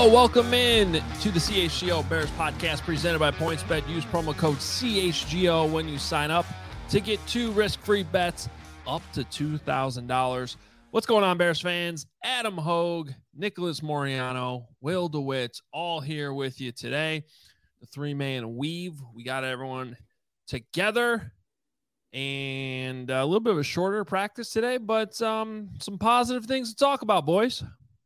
Welcome in to the CHGO Bears podcast presented by PointsBet. Use promo code CHGO when you sign up to get 2 risk-free bets up to $2,000. What's going on, Bears fans? Adam Hogue, Nicholas Moriano, Will DeWitt, all here with you today. The 3-man weave. We got everyone together, and a little bit of a shorter practice today, but some positive things to talk about, boys.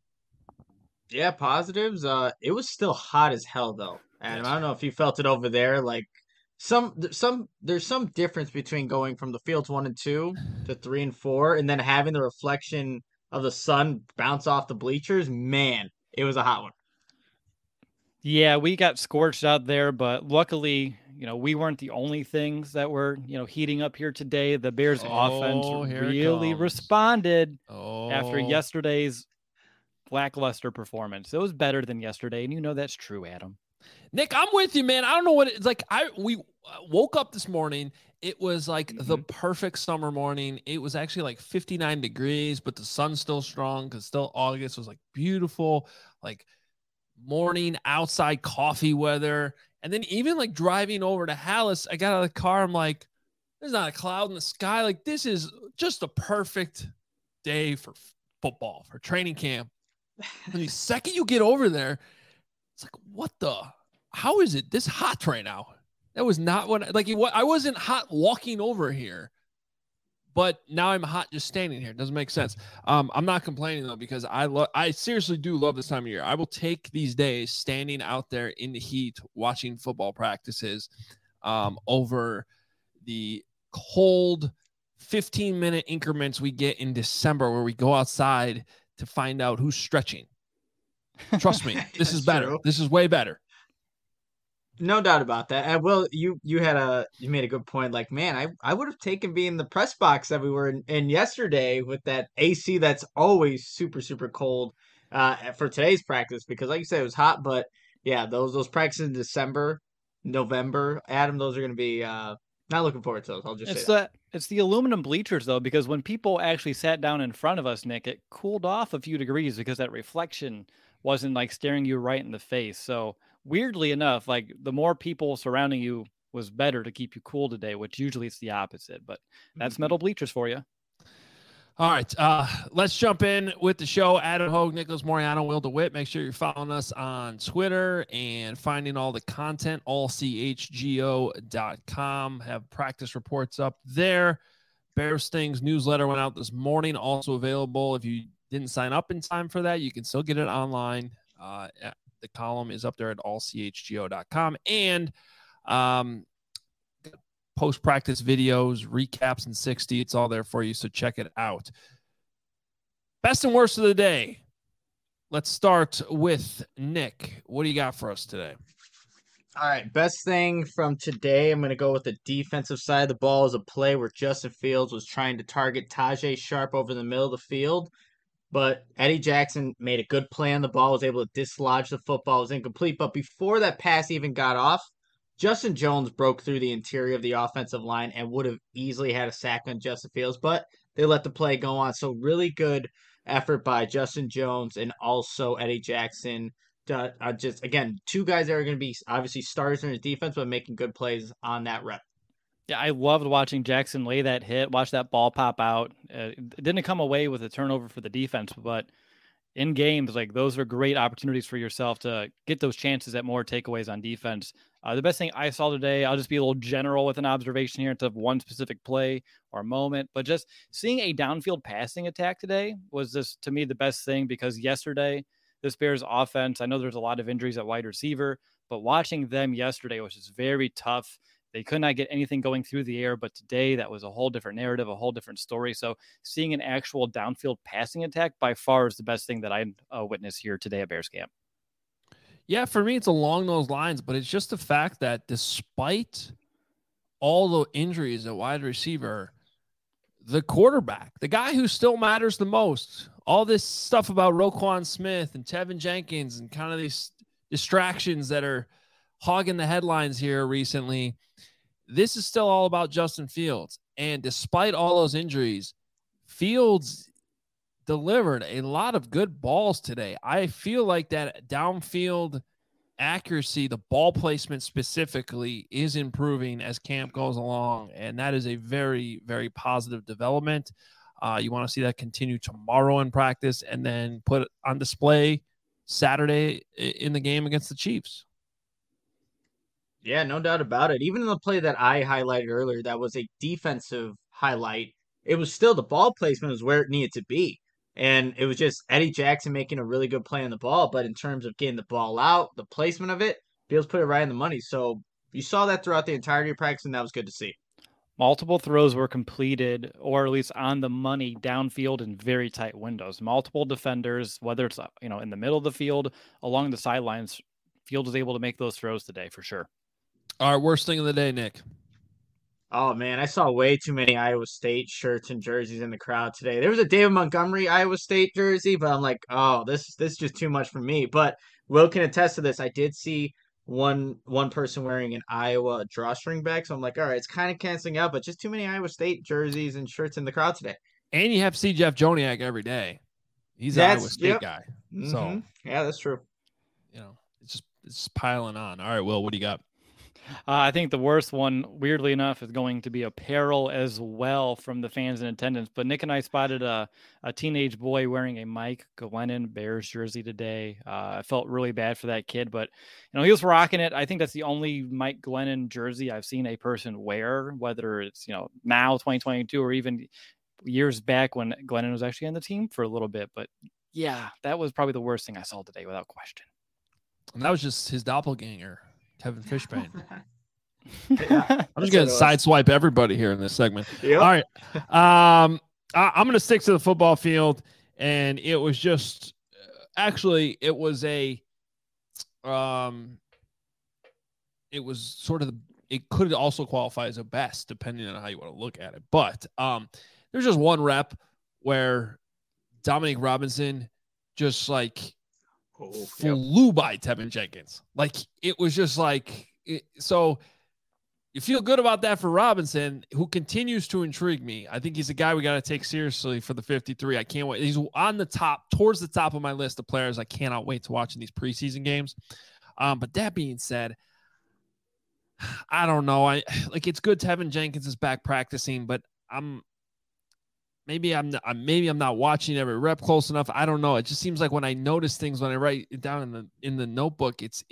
Yeah, positives. It was still hot as hell though. Adam, I don't know if you felt it over there. Like there's some difference between going from the fields 1 and 2 to 3 and 4, and then having the reflection of the sun bounce off the bleachers. Man, it was a hot one. Yeah, we got scorched out there, but luckily, we weren't the only things that were, heating up here today. The Bears offense really responded after yesterday's lackluster performance. It was better than yesterday, and that's true, Adam. Nick, I'm with you, man. I don't know what it's like. We woke up this morning. It was like the perfect summer morning. It was actually like 59 degrees, but the sun's still strong because still August was like beautiful, like morning outside coffee weather. And then even like driving over to Hallis, I got out of the car. I'm like, there's not a cloud in the sky. Like, this is just a perfect day for football, for training camp. And the second you get over there, it's like, how is it this hot right now? That was not I wasn't hot walking over here, but now I'm hot just standing here. It doesn't make sense. I'm not complaining though, because I seriously do love this time of year. I will take these days standing out there in the heat, watching football practices, over the cold 15-minute increments we get in December where we go outside to find out who's stretching. Trust me, this is better. True. This is way better. No doubt about that. And Will, you made a good point. Like, man, I would have taken being in the press box that we were in yesterday with that AC that's always super, super cold for today's practice, because like you said, it was hot. But yeah, those practices in December, November, Adam, those are going to be not looking forward to those. I'll just say that. It's the aluminum bleachers, though, because when people actually sat down in front of us, Nick, it cooled off a few degrees because that reflection wasn't like staring you right in the face. So weirdly enough, like the more people surrounding you was better to keep you cool today, which usually it's the opposite. But that's metal bleachers for you. All right, let's jump in with the show. Adam Hogue, Nicholas Moriano, Will DeWitt. Make sure you're following us on Twitter and finding all the content, allchgo.com. Have practice reports up there. Bears Things newsletter went out this morning, also available. If you didn't sign up in time for that, you can still get it online. The column is up there at allchgo.com. And post-practice videos, recaps in 60. It's all there for you, so check it out. Best and worst of the day. Let's start with Nick. What do you got for us today? All right, best thing from today, I'm going to go with the defensive side of the ball, is a play where Justin Fields was trying to target Tajae Sharpe over the middle of the field, but Eddie Jackson made a good play on the ball, was able to dislodge the football, was incomplete, but before that pass even got off, Justin Jones broke through the interior of the offensive line and would have easily had a sack on Justin Fields, but they let the play go on. So really good effort by Justin Jones and also Eddie Jackson. Just, again, 2 guys that are going to be obviously starters in his defense, but making good plays on that rep. Yeah, I loved watching Jackson lay that hit, watch that ball pop out. It didn't come away with a turnover for the defense, but in games, like those are great opportunities for yourself to get those chances at more takeaways on defense. The best thing I saw today, I'll just be a little general with an observation here instead of one specific play or moment, but just seeing a downfield passing attack today was just, to me, the best thing, because yesterday, this Bears offense, I know there's a lot of injuries at wide receiver, but watching them yesterday was just very tough. They could not get anything going through the air, but today that was a whole different narrative, a whole different story. So seeing an actual downfield passing attack by far is the best thing that I witnessed here today at Bears camp. Yeah, for me, it's along those lines, but it's just the fact that despite all the injuries at wide receiver, the quarterback, the guy who still matters the most, all this stuff about Roquan Smith and Tevin Jenkins and kind of these distractions that are hogging the headlines here recently, this is still all about Justin Fields. And despite all those injuries, Fields delivered a lot of good balls today. I feel like that downfield accuracy, the ball placement specifically, is improving as camp goes along, and that is a very, very positive development. You want to see that continue tomorrow in practice and then put it on display Saturday in the game against the Chiefs. Yeah, no doubt about it. Even in the play that I highlighted earlier, that was a defensive highlight. It was still the ball placement was where it needed to be. And it was just Eddie Jackson making a really good play on the ball. But in terms of getting the ball out, the placement of it, Fields put it right in the money. So you saw that throughout the entirety of practice, and that was good to see. Multiple throws were completed, or at least on the money, downfield in very tight windows. Multiple defenders, whether it's in the middle of the field, along the sidelines, Fields was able to make those throws today for sure. All right, worst thing of the day, Nick. Oh man, I saw way too many Iowa State shirts and jerseys in the crowd today. There was a David Montgomery Iowa State jersey, but I'm like, oh, this is just too much for me. But Will can attest to this. I did see one person wearing an Iowa drawstring bag, so I'm like, all right, it's kind of canceling out, but just too many Iowa State jerseys and shirts in the crowd today. And you have to see Jeff Joniak every day. He's an Iowa State guy. Mm-hmm. So yeah, that's true. It's piling on. All right, Will, what do you got? I think the worst one, weirdly enough, is going to be apparel as well from the fans in attendance. But Nick and I spotted a teenage boy wearing a Mike Glennon Bears jersey today. I felt really bad for that kid, but he was rocking it. I think that's the only Mike Glennon jersey I've seen a person wear, whether it's now 2022 or even years back when Glennon was actually on the team for a little bit. But yeah, that was probably the worst thing I saw today, without question. And that was just his doppelganger, Kevin Fishbane. Yeah, I'm just going to sideswipe everybody here in this segment. Yep. All right. I'm going to stick to the football field. And it was just, actually, it was it was sort of, it could also qualify as a best, depending on how you want to look at it. But there's just one rep where Dominic Robinson just flew by Tevin Jenkins. Like, it was just so you feel good about that for Robinson, who continues to intrigue me. I think he's a guy we got to take seriously for the 53. I can't wait. He's on towards the top of my list of players I cannot wait to watch in these preseason games. But that being said, I don't know. It's good Tevin Jenkins is back practicing, but maybe I'm not watching every rep close enough. I don't know. It just seems like when I notice things, when I write it down in the notebook, it's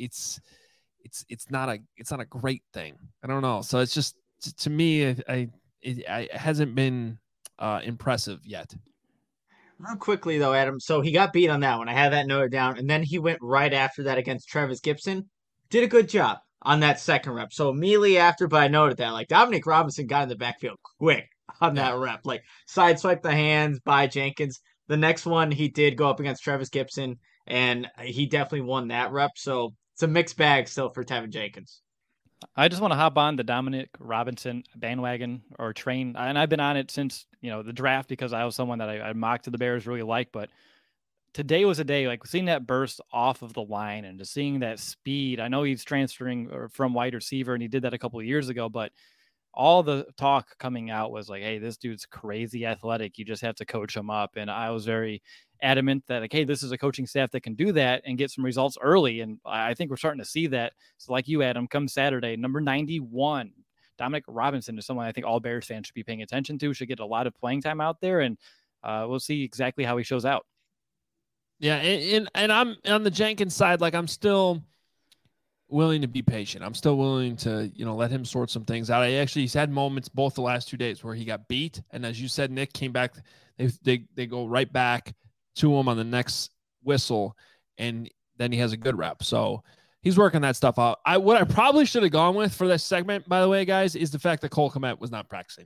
not a great thing. I don't know. So it's just, to me, it hasn't been impressive yet. Real quickly though, Adam. So he got beat on that one. I had that noted down, and then he went right after that against Travis Gibson. Did a good job on that second rep. So immediately after, but I noted that Dominic Robinson got in the backfield quick on that rep, sideswipe the hands by Jenkins. The next one he did go up against Travis Gibson, and he definitely won that rep. So it's a mixed bag still for Tevin Jenkins. I just want to hop on the Dominic Robinson bandwagon or train, and I've been on it since the draft because I was someone that I mocked to the Bears really like. But today was a day seeing that burst off of the line and just seeing that speed. I know he's transferring from wide receiver, and he did that a couple of years ago, but all the talk coming out was hey, this dude's crazy athletic. You just have to coach him up. And I was very adamant that hey, this is a coaching staff that can do that and get some results early. And I think we're starting to see that. So like you, Adam, come Saturday, number 91, Dominic Robinson is someone I think all Bears fans should be paying attention to, should get a lot of playing time out there. And we'll see exactly how he shows out. Yeah. And I'm on the Jenkins side. I'm still willing to be patient. I'm still willing to, let him sort some things out. He's had moments both the last 2 days where he got beat. And as you said, Nick, came back. They go right back to him on the next whistle. And then he has a good rep. So he's working that stuff out. What I probably should have gone with for this segment, by the way, guys, is the fact that Cole Kmet was not practicing.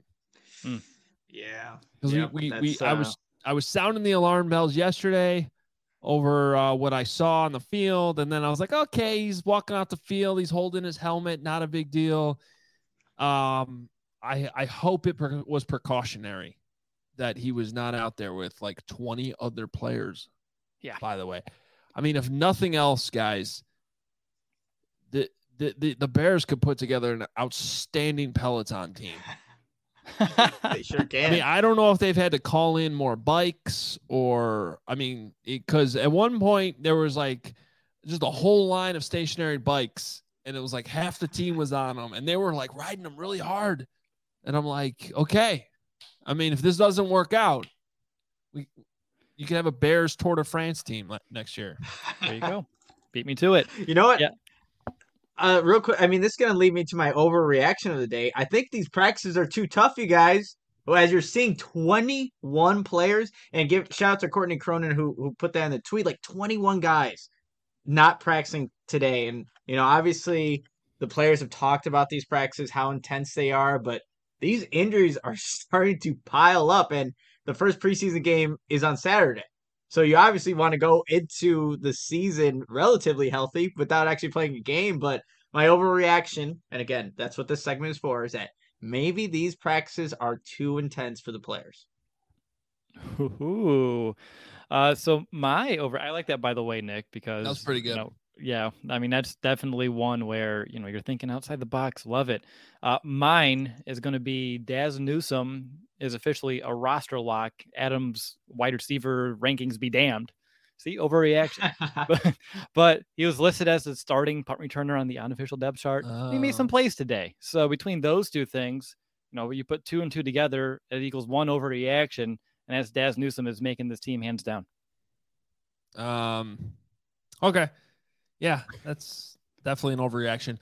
Yeah. Because I was sounding the alarm bells yesterday over what I saw on the field. And then I was like, okay, he's walking out the field. He's holding his helmet. Not a big deal. I hope it was precautionary that he was not out there with 20 other players. Yeah. By the way, I mean, if nothing else, guys, the Bears could put together an outstanding Peloton team They sure can. I mean, I don't know if they've had to call in more bikes or, I mean, because at one point there was like just a whole line of stationary bikes, and it was like half the team was on them, and they were like riding them really hard. And I'm like, okay, I mean, if this doesn't work out, you can have a Bears Tour de France team next year. There you go. Beat me to it. You know what? Yeah. Real quick, I mean, this is going to lead me to my overreaction of the day. I think these practices are too tough, you guys. Well, as you're seeing 21 players, and give shout out to Courtney Cronin who put that in the tweet, like 21 guys not practicing today. And, obviously the players have talked about these practices, how intense they are, but these injuries are starting to pile up. And the first preseason game is on Saturday. So you obviously want to go into the season relatively healthy without actually playing a game. But my overreaction, and again, that's what this segment is for, is that maybe these practices are too intense for the players. Ooh. So I like that, by the way, Nick, because that's pretty good. Yeah, I mean, that's definitely one where, you're thinking outside the box. Love it. Mine is going to be Dazz Newsome is officially a roster lock. Adams wide receiver rankings be damned. See, overreaction. but he was listed as the starting punt returner on the unofficial depth chart. He made some plays today. So between those two things, you put 2 and 2 together, it equals one overreaction. And that's Dazz Newsome is making this team hands down. Okay. Yeah, that's definitely an overreaction.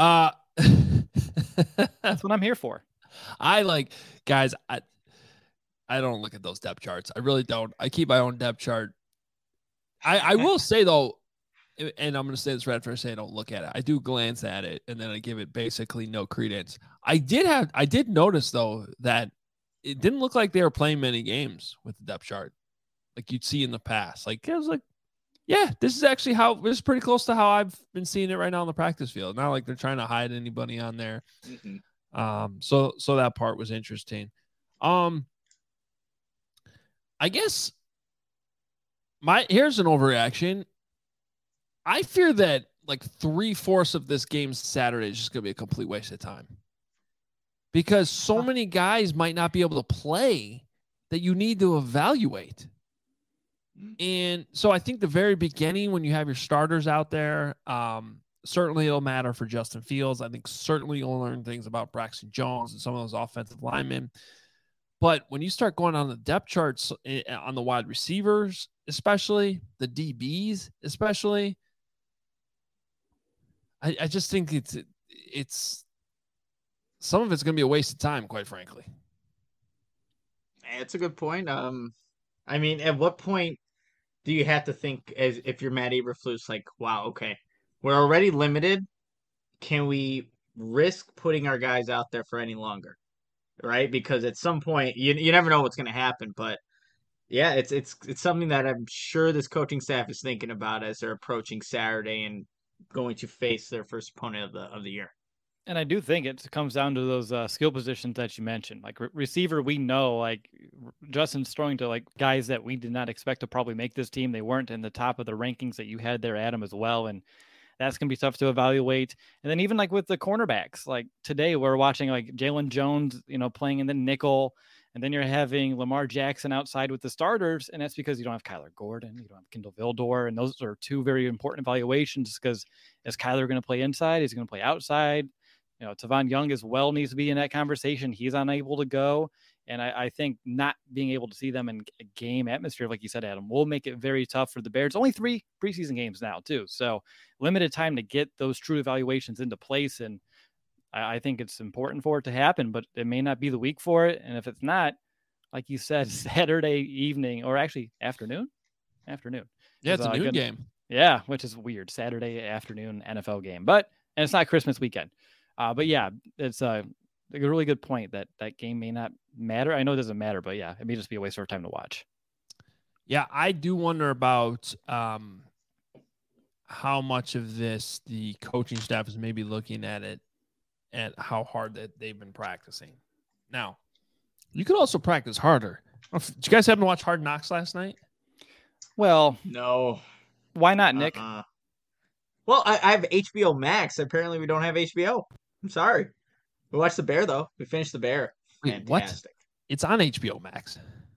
That's what I'm here for. Guys, I don't look at those depth charts. I really don't. I keep my own depth chart. I will say, though, and I'm going to say this right after I say I don't look at it. I do glance at it, and then I give it basically no credence. I did notice, though, that it didn't look like they were playing many games with the depth chart like you'd see in the past. Like, I was like, yeah, this is pretty close to how I've been seeing it right now on the practice field. Not like they're trying to hide anybody on there. Mm-hmm. So that part was interesting. I guess here's an overreaction. I fear that like 3/4 of this game Saturday is just going to be a complete waste of time because so many guys might not be able to play that you need to evaluate. And so I think the very beginning, when you have your starters out there, certainly it'll matter for Justin Fields. I think certainly you'll learn things about Braxton Jones and some of those offensive linemen. But when you start going on the depth charts on the wide receivers, especially the DBs, especially, I just think it's some of it's going to be a waste of time, quite frankly. It's a good point. I mean, at what point do you have to think, as if you're Matt Eberflus, like, wow, okay, we're already limited. Can we risk putting our guys out there for any longer? Right? Because at some point, you never know what's going to happen. But yeah, it's something that I'm sure this coaching staff is thinking about as they're approaching Saturday and going to face their first opponent of the year. And I do think it comes down to those skill positions that you mentioned. Like receiver, we know, like Justin's throwing to like guys that we did not expect to probably make this team. They weren't in the top of the rankings that you had there, Adam, as well. And that's going to be tough to evaluate. And then even like with the cornerbacks, like today we're watching like Jalen Jones, playing in the nickel. And then you're having Lamar Jackson outside with the starters. And that's because you don't have Kyler Gordon. You don't have Kindle Vildor. And those are two very important evaluations because is Kyler going to play inside? Is he going to play outside? Tavon Young as well needs to be in that conversation. He's unable to go. And I think not being able to see them in a game atmosphere, like you said, Adam, will make it very tough for the Bears. Only 3 preseason games now, too. So limited time to get those true evaluations into place. And I think it's important for it to happen, but it may not be the week for it. And if it's not, like you said, Saturday evening or actually afternoon. Yeah, it's a noon game. Yeah, which is weird. Saturday afternoon NFL game. And it's not Christmas weekend. But yeah, it's a really good point that game may not matter. I know it doesn't matter, but yeah, it may just be a waste of our time to watch. Yeah, I do wonder about how much of this the coaching staff is maybe looking at it and how hard that they've been practicing. Now, you could also practice harder. Did you guys happen to watch Hard Knocks last night? Well, no. Why not, Nick? Well, I have HBO Max. Apparently, we don't have HBO. I'm sorry. We watched The Bear, though. We finished The Bear. Wait, what? fantastic. It's on HBO Max.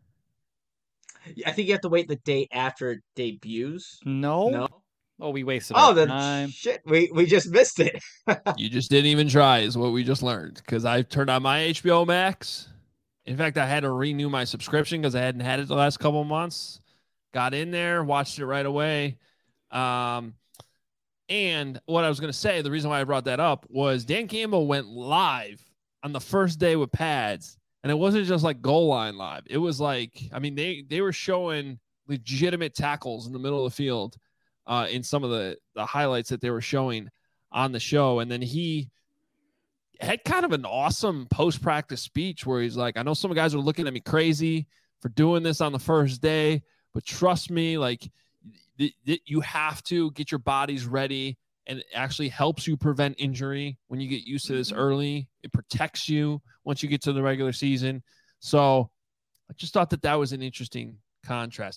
I think you have to wait the day after it debuts. No. No. Oh, we wasted Oh, our then time. shit. We just missed it. You just didn't even try, is what we just learned. Because I turned on my HBO Max. In fact, I had to renew my subscription because I hadn't had it the last couple of months. Got in there, watched it right away. And what I was going to say, the reason why I brought that up was Dan Campbell went live on the first day with pads. And it wasn't just like goal line live. It was like, I mean, they were showing legitimate tackles in the middle of the field in some of the highlights that they were showing on the show. And then he had kind of an awesome post-practice speech where he's like, I know some guys are looking at me crazy for doing this on the first day, but trust me, like you have to get your bodies ready, and it actually helps you prevent injury when you get used to this early. It protects you once you get to the regular season. So I just thought that was an interesting contrast.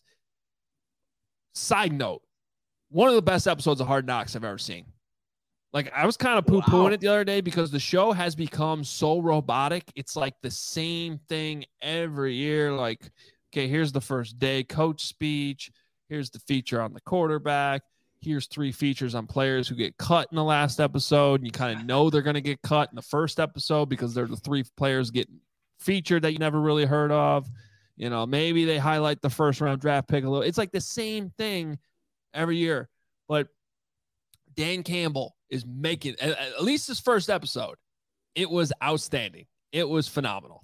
Side note, one of the best episodes of Hard Knocks I've ever seen. Like, I was kind of poo-pooing it the other day because the show has become so robotic. It's like the same thing every year. Like, okay, here's the first day coach speech. Here's the feature on the quarterback. Here's 3 features on players who get cut in the last episode. And you kind of know they're going to get cut in the first episode because they're the 3 players getting featured that you never really heard of. You know, maybe they highlight the first round draft pick a little. It's like the same thing every year. But Dan Campbell is making, at least this first episode, it was outstanding. It was phenomenal.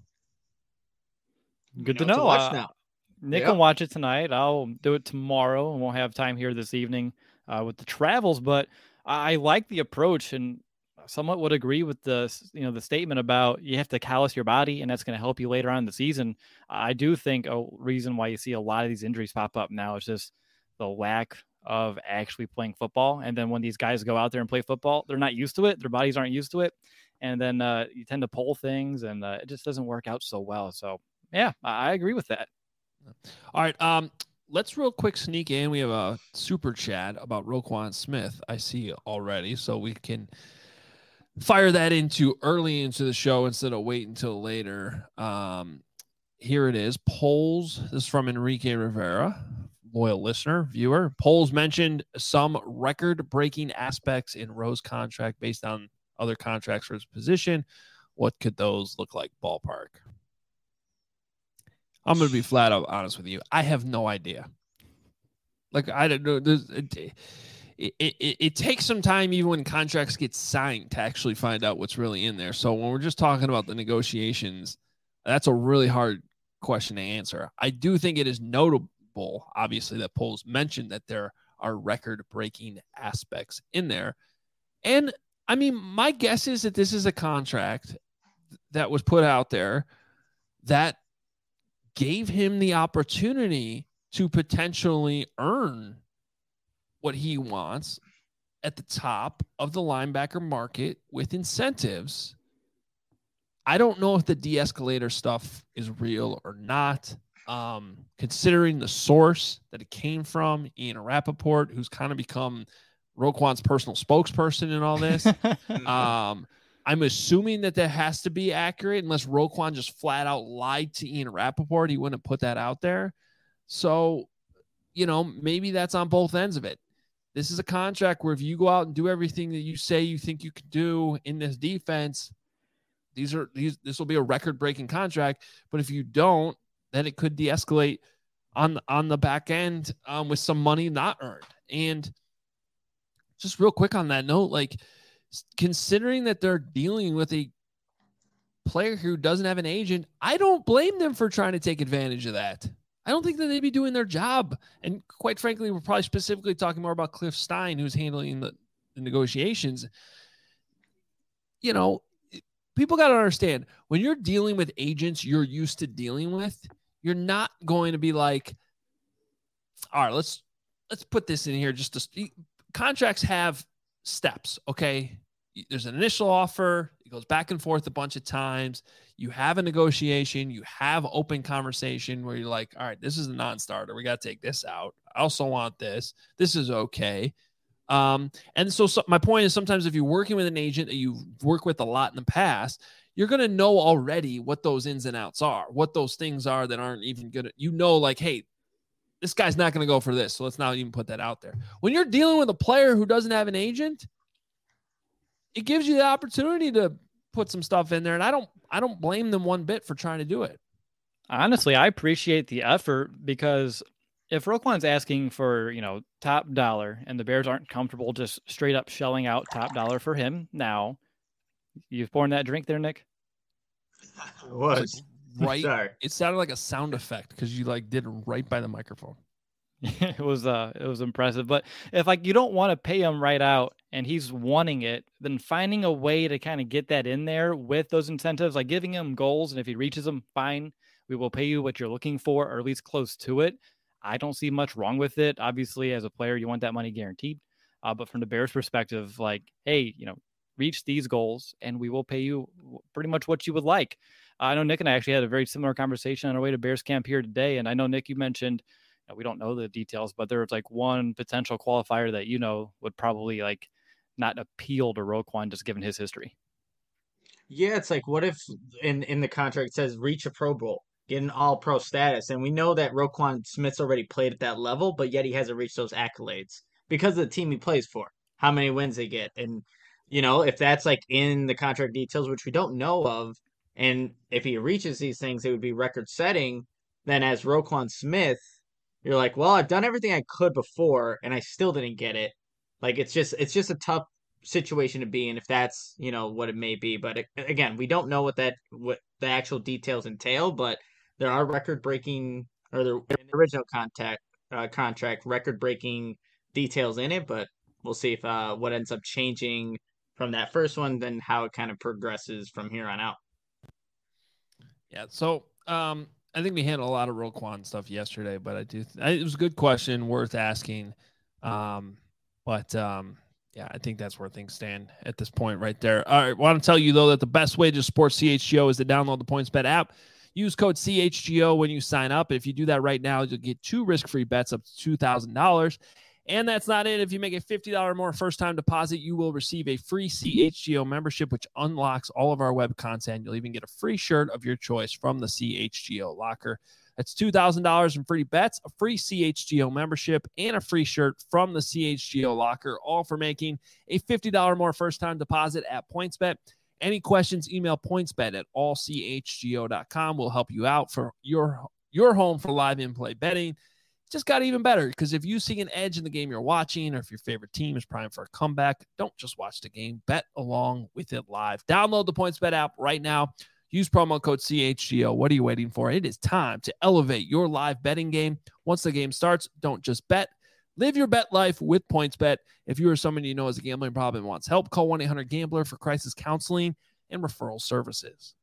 Good to know. Watch now. Nick can watch it tonight. I'll do it tomorrow, and won't have time here this evening with the travels. But I like the approach, and somewhat would agree with the statement about you have to callous your body, and that's going to help you later on in the season. I do think a reason why you see a lot of these injuries pop up now is just the lack of actually playing football. And then when these guys go out there and play football, they're not used to it. Their bodies aren't used to it. And then you tend to pull things, and it just doesn't work out so well. So, yeah, I agree with that. All right. Let's real quick sneak in. We have a super chat about Roquan Smith, I see already. So we can fire that early into the show instead of wait until later. Here it is. Polls. This is from Enrique Rivera, loyal listener, viewer. Polls mentioned some record-breaking aspects in Rowe's contract based on other contracts for his position. What could those look like, ballpark? I'm going to be flat out honest with you. I have no idea. Like, I don't know. It takes some time even when contracts get signed to actually find out what's really in there. So when we're just talking about the negotiations, that's a really hard question to answer. I do think it is notable, obviously, that polls mentioned that there are record-breaking aspects in there. And, I mean, my guess is that this is a contract that was put out there that gave him the opportunity to potentially earn what he wants at the top of the linebacker market with incentives. I don't know if the de-escalator stuff is real or not. Considering the source that it came from, Ian Rappaport, who's kind of become Roquan's personal spokesperson in all this. I'm assuming that has to be accurate unless Roquan just flat out lied to Ian Rappaport. He wouldn't put that out there. So, maybe that's on both ends of it. This is a contract where if you go out and do everything that you say you think you can do in this defense, this will be a record-breaking contract. But if you don't, then it could de-escalate on the back end with some money not earned. And just real quick on that note, like, considering that they're dealing with a player who doesn't have an agent, I don't blame them for trying to take advantage of that. I don't think that they'd be doing their job. And quite frankly, we're probably specifically talking more about Cliff Stein, who's handling the negotiations. People got to understand, when you're dealing with agents you're used to dealing with, you're not going to be like, all right, let's put this in here. Contracts have steps, okay? There's an initial offer. It goes back and forth a bunch of times. You have a negotiation. You have open conversation where you're like, all right, this is a non-starter. We got to take this out. I also want this. This is okay. And so my point is, sometimes if you're working with an agent that you've worked with a lot in the past, you're going to know already what those ins and outs are, what those things are that aren't even good. Like, hey, this guy's not going to go for this. So let's not even put that out there. When you're dealing with a player who doesn't have an agent, it gives you the opportunity to put some stuff in there. And I don't blame them one bit for trying to do it. Honestly, I appreciate the effort, because if Roquan's asking for, top dollar, and the Bears aren't comfortable just straight up shelling out top dollar for him now, you've poured that drink there, Nick? It was. Right. Sorry. It sounded like a sound effect because you did it right by the microphone. It was impressive. But if you don't want to pay him right out and he's wanting it, then finding a way to kind of get that in there with those incentives, like giving him goals, and if he reaches them, fine, we will pay you what you're looking for, or at least close to it. I don't see much wrong with it. Obviously, as a player, you want that money guaranteed. But from the Bears' perspective, hey, reach these goals and we will pay you pretty much what you would like. I know Nick and I actually had a very similar conversation on our way to Bears camp here today. And I know, Nick, you mentioned, we don't know the details, but there was one potential qualifier that, would probably not appeal to Roquan just given his history. Yeah, it's what if in the contract it says reach a Pro Bowl, get an all-pro status, and we know that Roquan Smith's already played at that level, but yet he hasn't reached those accolades because of the team he plays for, how many wins they get. And, if that's in the contract details, which we don't know of, and if he reaches these things, it would be record-setting, then as Roquan Smith, you're well, I've done everything I could before, and I still didn't get it. It's just a tough situation to be in if that's what it may be. But again, we don't know what the actual details entail, but there are record-breaking, or the original contract record-breaking details in it. But we'll see if what ends up changing from that first one, then how it kind of progresses from here on out. Yeah. So I think we handled a lot of Roquan stuff yesterday, but it was a good question, worth asking. Yeah, I think that's where things stand at this point right there. All right, I want to tell you, though, that the best way to support CHGO is to download the PointsBet app. Use code CHGO when you sign up. If you do that right now, you'll get 2 risk-free bets up to $2,000. And that's not it. If you make a $50 or more first-time deposit, you will receive a free CHGO membership, which unlocks all of our web content. You'll even get a free shirt of your choice from the CHGO locker. That's $2,000 in free bets, a free CHGO membership, and a free shirt from the CHGO locker, all for making a $50 more first-time deposit at PointsBet. Any questions, email pointsbet@allchgo.com. We'll help you out for your home for live in-play betting. It just got even better, because if you see an edge in the game you're watching, or if your favorite team is primed for a comeback, don't just watch the game. Bet along with it live. Download the PointsBet app right now. Use promo code CHGO. What are you waiting for? It is time to elevate your live betting game. Once the game starts, don't just bet. Live your bet life with PointsBet. If you or someone you know has a gambling problem and wants help, call 1-800-GAMBLER for crisis counseling and referral services.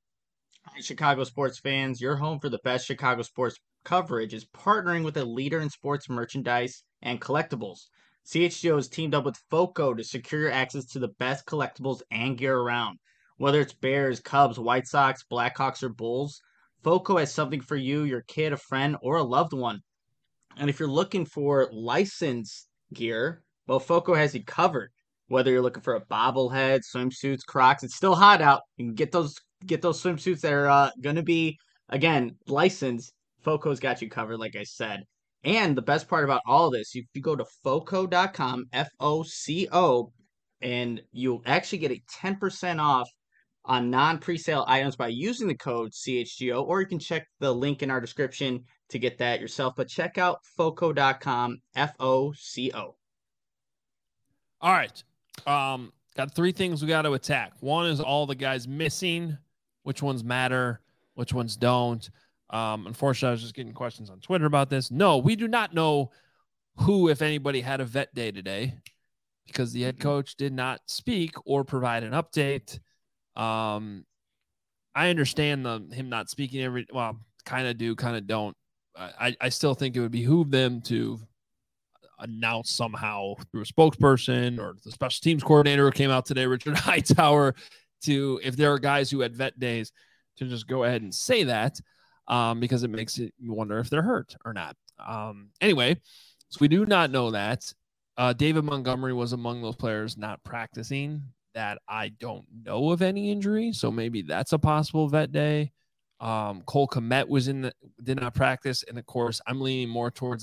Hi, Chicago sports fans. Your home for the best Chicago sports coverage is partnering with a leader in sports merchandise and collectibles. CHGO has teamed up with FOCO to secure your access to the best collectibles and gear around. Whether it's Bears, Cubs, White Sox, Blackhawks, or Bulls, FOCO has something for you, your kid, a friend, or a loved one. And if you're looking for licensed gear, well, FOCO has you covered. Whether you're looking for a bobblehead, swimsuits, Crocs, it's still hot out. You can get those swimsuits that are going to be, again, licensed. FOCO's got you covered, like I said. And the best part about all this, if you go to FOCO.com, FOCO, and you'll actually get a 10% off on non-presale items by using the code CHGO, or you can check the link in our description to get that yourself. But check out FOCO.com, FOCO. All right. Got 3 things we got to attack. One is all the guys missing, which ones matter, which ones don't. Unfortunately, I was just getting questions on Twitter about this. No, we do not know who, if anybody, had a vet day today, because the head coach did not speak or provide an update. I understand him not speaking kind of do, kind of don't. I still think it would behoove them to announce somehow through a spokesperson, or the special teams coordinator who came out today, Richard Hightower, to, if there are guys who had vet days, to just go ahead and say that, because it makes you wonder if they're hurt or not. Anyway, so we do not know that. David Montgomery was among those players not practicing. that I don't know of any injury. So maybe that's a possible vet day. Cole Kmet did not practice. And of course, I'm leaning more towards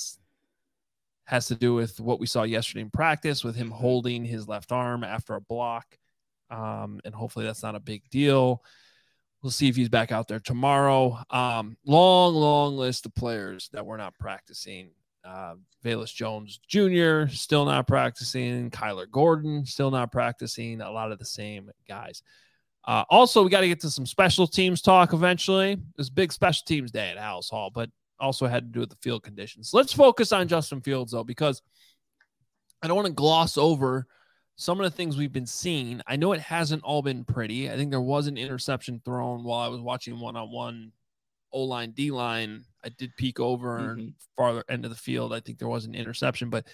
has to do with what we saw yesterday in practice with him holding his left arm after a block. And hopefully that's not a big deal. We'll see if he's back out there tomorrow. Long list of players that were not practicing. Velus Jones Jr. still not practicing. Kyler Gordon still not practicing. A lot of the same guys. Also, we got to get to some special teams talk eventually. There's big special teams day at Halas Hall, but also had to do with the field conditions. Let's focus on Justin Fields, though, because I don't want to gloss over some of the things we've been seeing. I know it hasn't all been pretty. I think there was an interception thrown while I was watching one-on-one O-line, D-line. I did peek over farther end of the field. I think there was an interception, but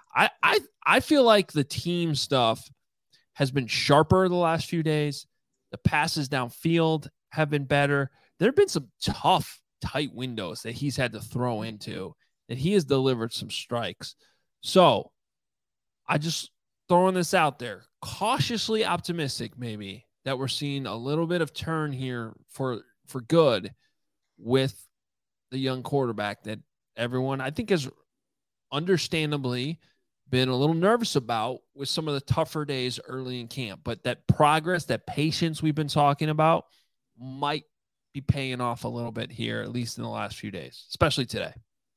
I feel like the team stuff has been sharper the last few days. The passes downfield have been better. There have been some tough, tight windows that he's had to throw into, that he has delivered some strikes. So I just throwing this out there, cautiously optimistic maybe that we're seeing a little bit of turn here for good with the young quarterback that everyone I think has understandably been a little nervous about with some of the tougher days early in camp. But that progress, that patience we've been talking about might be paying off a little bit here, at least in the last few days, especially today.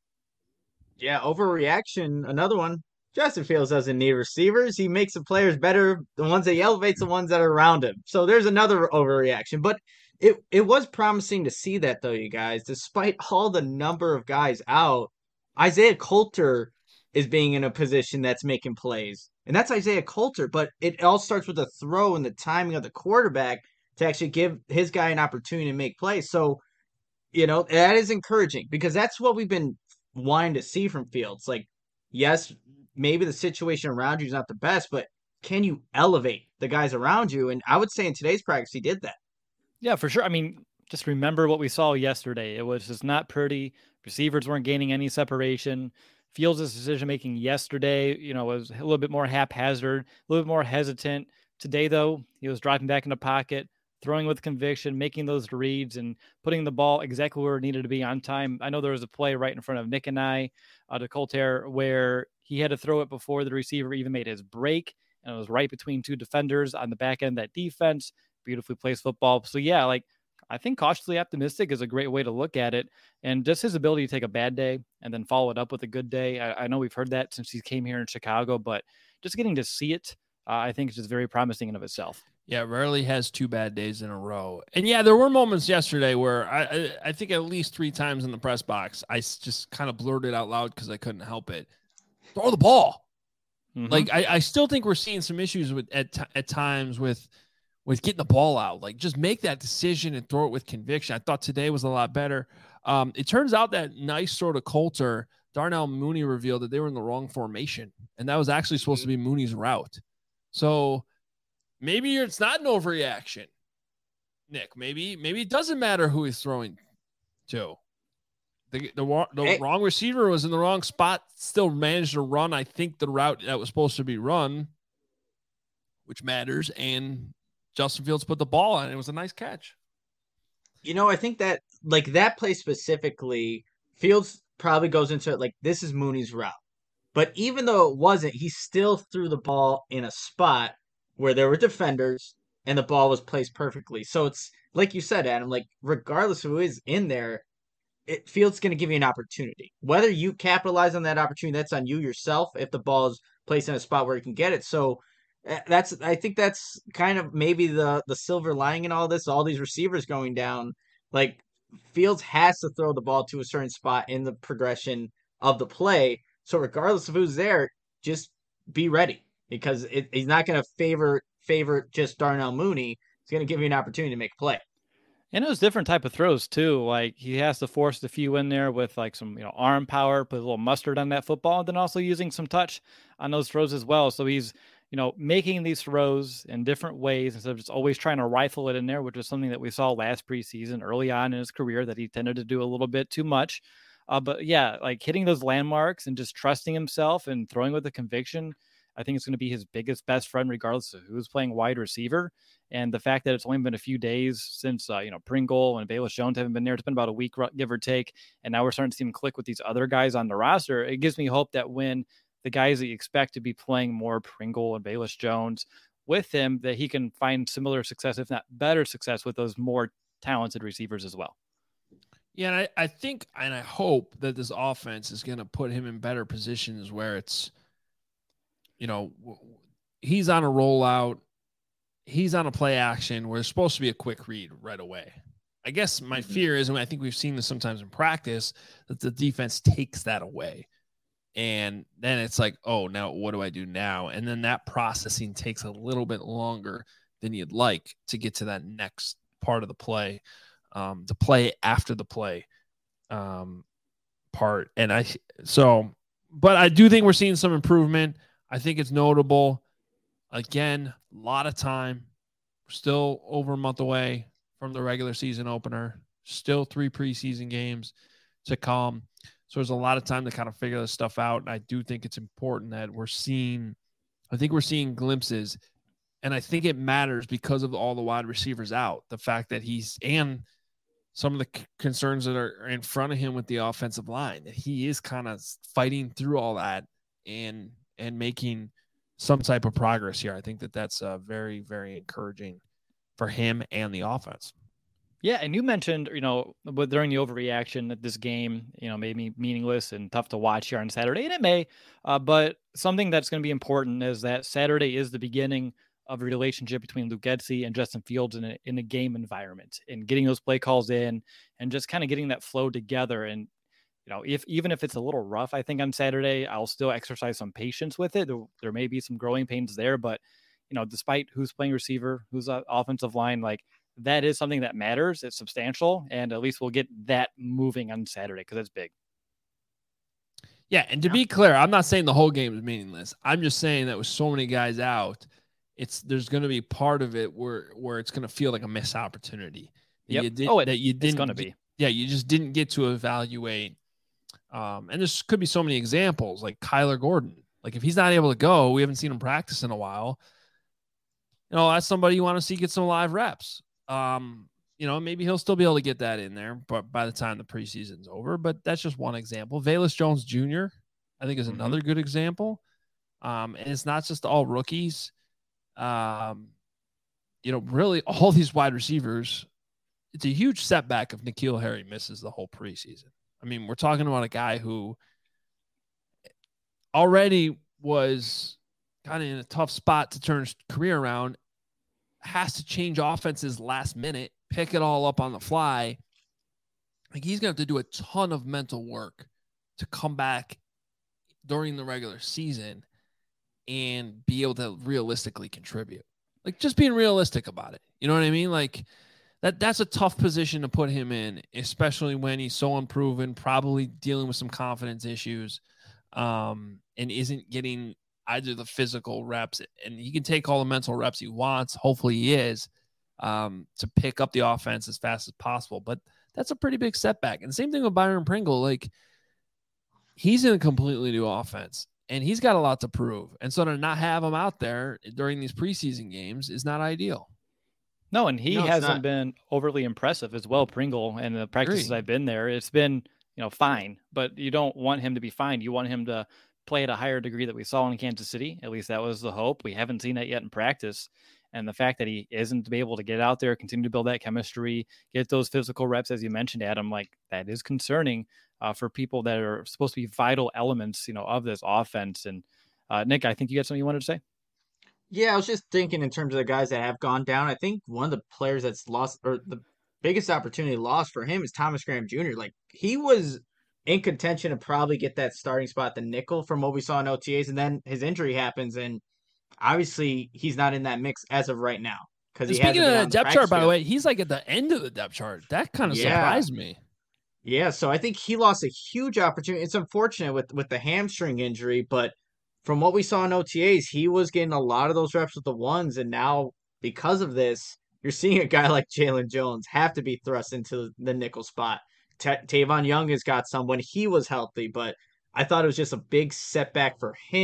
Yeah, overreaction. Another one. Justin Fields doesn't need receivers. He makes the players better, the ones that he elevates, the ones that are around him. So there's another overreaction. But it was promising to see that, though, you guys. Despite all the number of guys out, Isaiah Coulter is being in a position that's making plays. And that's Isaiah Coulter. But it all starts with the throw and the timing of the quarterback to actually give his guy an opportunity to make plays. So, that is encouraging because that's what we've been wanting to see from Fields. Like, yes, maybe the situation around you is not the best, but can you elevate the guys around you? And I would say in today's practice, he did that. Yeah, for sure. I mean, just remember what we saw yesterday. It was just not pretty. Receivers weren't gaining any separation. Fields' decision-making yesterday, was a little bit more haphazard, a little bit more hesitant. Today, though, he was dropping back in the pocket, throwing with conviction, making those reads, and putting the ball exactly where it needed to be on time. I know there was a play right in front of Nick and I to Coulter where he had to throw it before the receiver even made his break, and it was right between two defenders on the back end of that defense. Beautifully placed football. So, yeah, I think cautiously optimistic is a great way to look at it. And just his ability to take a bad day and then follow it up with a good day. I know we've heard that since he came here in Chicago, but just getting to see it, I think is just very promising in of itself. Yeah, rarely has 2 bad days in a row. And yeah, there were moments yesterday where I think at least 3 times in the press box, I just kind of blurted out loud because I couldn't help it. Throw the ball. Mm-hmm. Like I still think we're seeing some issues at times with getting the ball out. Like just make that decision and throw it with conviction. I thought today was a lot better. It turns out that nice sort of Coulter, Darnell Mooney revealed that they were in the wrong formation, and that was actually supposed to be Mooney's route. So maybe it's not an overreaction, Nick. Maybe it doesn't matter who he's throwing to. The wrong receiver was in the wrong spot, still managed to run, I think, the route that was supposed to be run, which matters, and Justin Fields put the ball on it. It was a nice catch. I think that, that play specifically, Fields probably goes into it like, this is Mooney's route. But even though it wasn't, he still threw the ball in a spot where there were defenders and the ball was placed perfectly. So it's, like you said, Adam, regardless of who is in there, Fields going to give you an opportunity. Whether you capitalize on that opportunity, that's on you yourself if the ball is placed in a spot where you can get it. So I think that's kind of maybe the silver lining in all this, all these receivers going down. Fields has to throw the ball to a certain spot in the progression of the play. So regardless of who's there, just be ready because he's not going to favor just Darnell Mooney. He's going to give you an opportunity to make a play. And it was different type of throws too. Like he has to force the few in there with some arm power, put a little mustard on that football, and then also using some touch on those throws as well. So he's making these throws in different ways instead of just always trying to rifle it in there, which is something that we saw last preseason early on in his career that he tended to do a little bit too much. But yeah, hitting those landmarks and just trusting himself and throwing with the conviction. I think it's going to be his biggest best friend, regardless of who's playing wide receiver. And the fact that it's only been a few days since, Pringle and Bayless Jones haven't been there, it's been about a week, give or take. And now we're starting to see him click with these other guys on the roster. It gives me hope that when the guys that you expect to be playing more, Pringle and Bayless Jones, with him, that he can find similar success, if not better success, with those more talented receivers as well. Yeah, and I think and I hope that this offense is going to put him in better positions where it's, he's on a rollout, he's on a play action where it's supposed to be a quick read right away. I guess my fear is, and I think we've seen this sometimes in practice, that the defense takes that away. And then it's like, oh, now what do I do now? And then that processing takes a little bit longer than you'd like to get to that next part of the play, the play after the play part. But I do think we're seeing some improvement. I think it's notable. Again, a lot of time. We're still over a month away from the regular season opener. Still 3 preseason games to come. So there's a lot of time to kind of figure this stuff out. And I do think it's important that we're seeing glimpses. And I think it matters because of all the wide receivers out. The fact that and some of the concerns that are in front of him with the offensive line, that he is kind of fighting through all that and making some type of progress here. I think that's very, very encouraging for him and the offense. Yeah, and you mentioned, but during the overreaction that this game, made me meaningless and tough to watch here on Saturday, and it may, but something that's going to be important is that Saturday is the beginning of a relationship between Luke Getsy and Justin Fields in a game environment, and getting those play calls in and just kind of getting that flow together. And, even if it's a little rough, I think on Saturday, I'll still exercise some patience with it. There may be some growing pains there, but, despite who's playing receiver, who's offensive line, like, that is something that matters. It's substantial, and at least we'll get that moving on Saturday because it's big. Yeah, and to be clear, I'm not saying the whole game is meaningless. I'm just saying that with so many guys out, there's going to be part of it where it's going to feel like a missed opportunity. Yep. It's going to be. Yeah, you just didn't get to evaluate. And there could be so many examples, like Kyler Gordon. Like, if he's not able to go, we haven't seen him practice in a while. That's somebody you want to see get some live reps. Maybe he'll still be able to get that in there, but by the time the preseason's over. But that's just one example. Bayless Jones Jr., I think, is another good example. And it's not just all rookies. Really all these wide receivers, it's a huge setback if N'Keal Harry misses the whole preseason. I mean, we're talking about a guy who already was kind of in a tough spot to turn his career around, has to change offenses last minute, pick it all up on the fly. Like, he's going to have to do a ton of mental work to come back during the regular season and be able to realistically contribute. Like, just being realistic about it. You know what I mean? Like, that's a tough position to put him in, especially when he's so unproven, probably dealing with some confidence issues, and isn't getting either the physical reps, and he can take all the mental reps he wants. Hopefully he is, to pick up the offense as fast as possible. But that's a pretty big setback. And the same thing with Byron Pringle. Like, he's in a completely new offense, and he's got a lot to prove. And so to not have him out there during these preseason games is not ideal. No, and he hasn't been overly impressive as well, Pringle, and the practices I've been there. It's been, fine, but you don't want him to be fine. You want him to play at a higher degree that we saw in Kansas City. At least that was the hope. We haven't seen that yet in practice. And the fact that he isn't able to get out there, continue to build that chemistry, get those physical reps, as you mentioned, Adam, like, that is concerning for people that are supposed to be vital elements, of this offense. And Nick, I think you got something you wanted to say? Yeah, I was just thinking in terms of the guys that have gone down. I think one of the players that's lost, or the biggest opportunity lost for him, is Thomas Graham Jr. Like, he was in contention to probably get that starting spot, the nickel, from what we saw in OTAs, and then his injury happens, and obviously he's not in that mix as of right now. Speaking of the depth chart, by the way, he's like at the end of the depth chart. That kind of surprised me. Yeah, so I think he lost a huge opportunity. It's unfortunate with the hamstring injury, but from what we saw in OTAs, he was getting a lot of those reps with the ones, and now because of this, you're seeing a guy like Jalen Jones have to be thrust into the nickel spot. Tavon Young has got some when he was healthy, but I thought it was just a big setback for him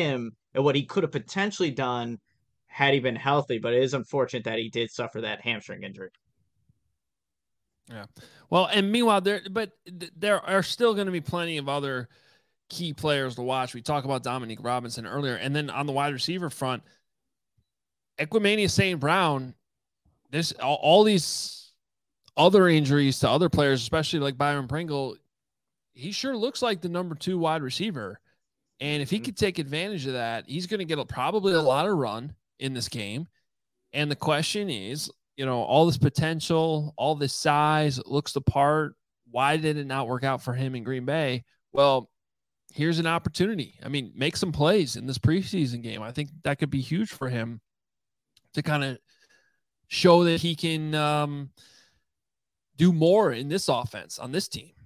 and what he could have potentially done had he been healthy. But it is unfortunate that he did suffer that hamstring injury. Yeah. Well, and meanwhile, there are still going to be plenty of other key players to watch. We talked about Dominique Robinson earlier, and then on the wide receiver front, Equanimeous St. Brown. This all these other injuries to other players, especially like Byron Pringle, he sure looks like the number 2 wide receiver. And if he could take advantage of that, he's going to get probably a lot of run in this game. And the question is, all this potential, all this size, looks the part. Why did it not work out for him in Green Bay? Well, here's an opportunity. I mean, make some plays in this preseason game. I think that could be huge for him to kind of show that he can do more in this offense on this team.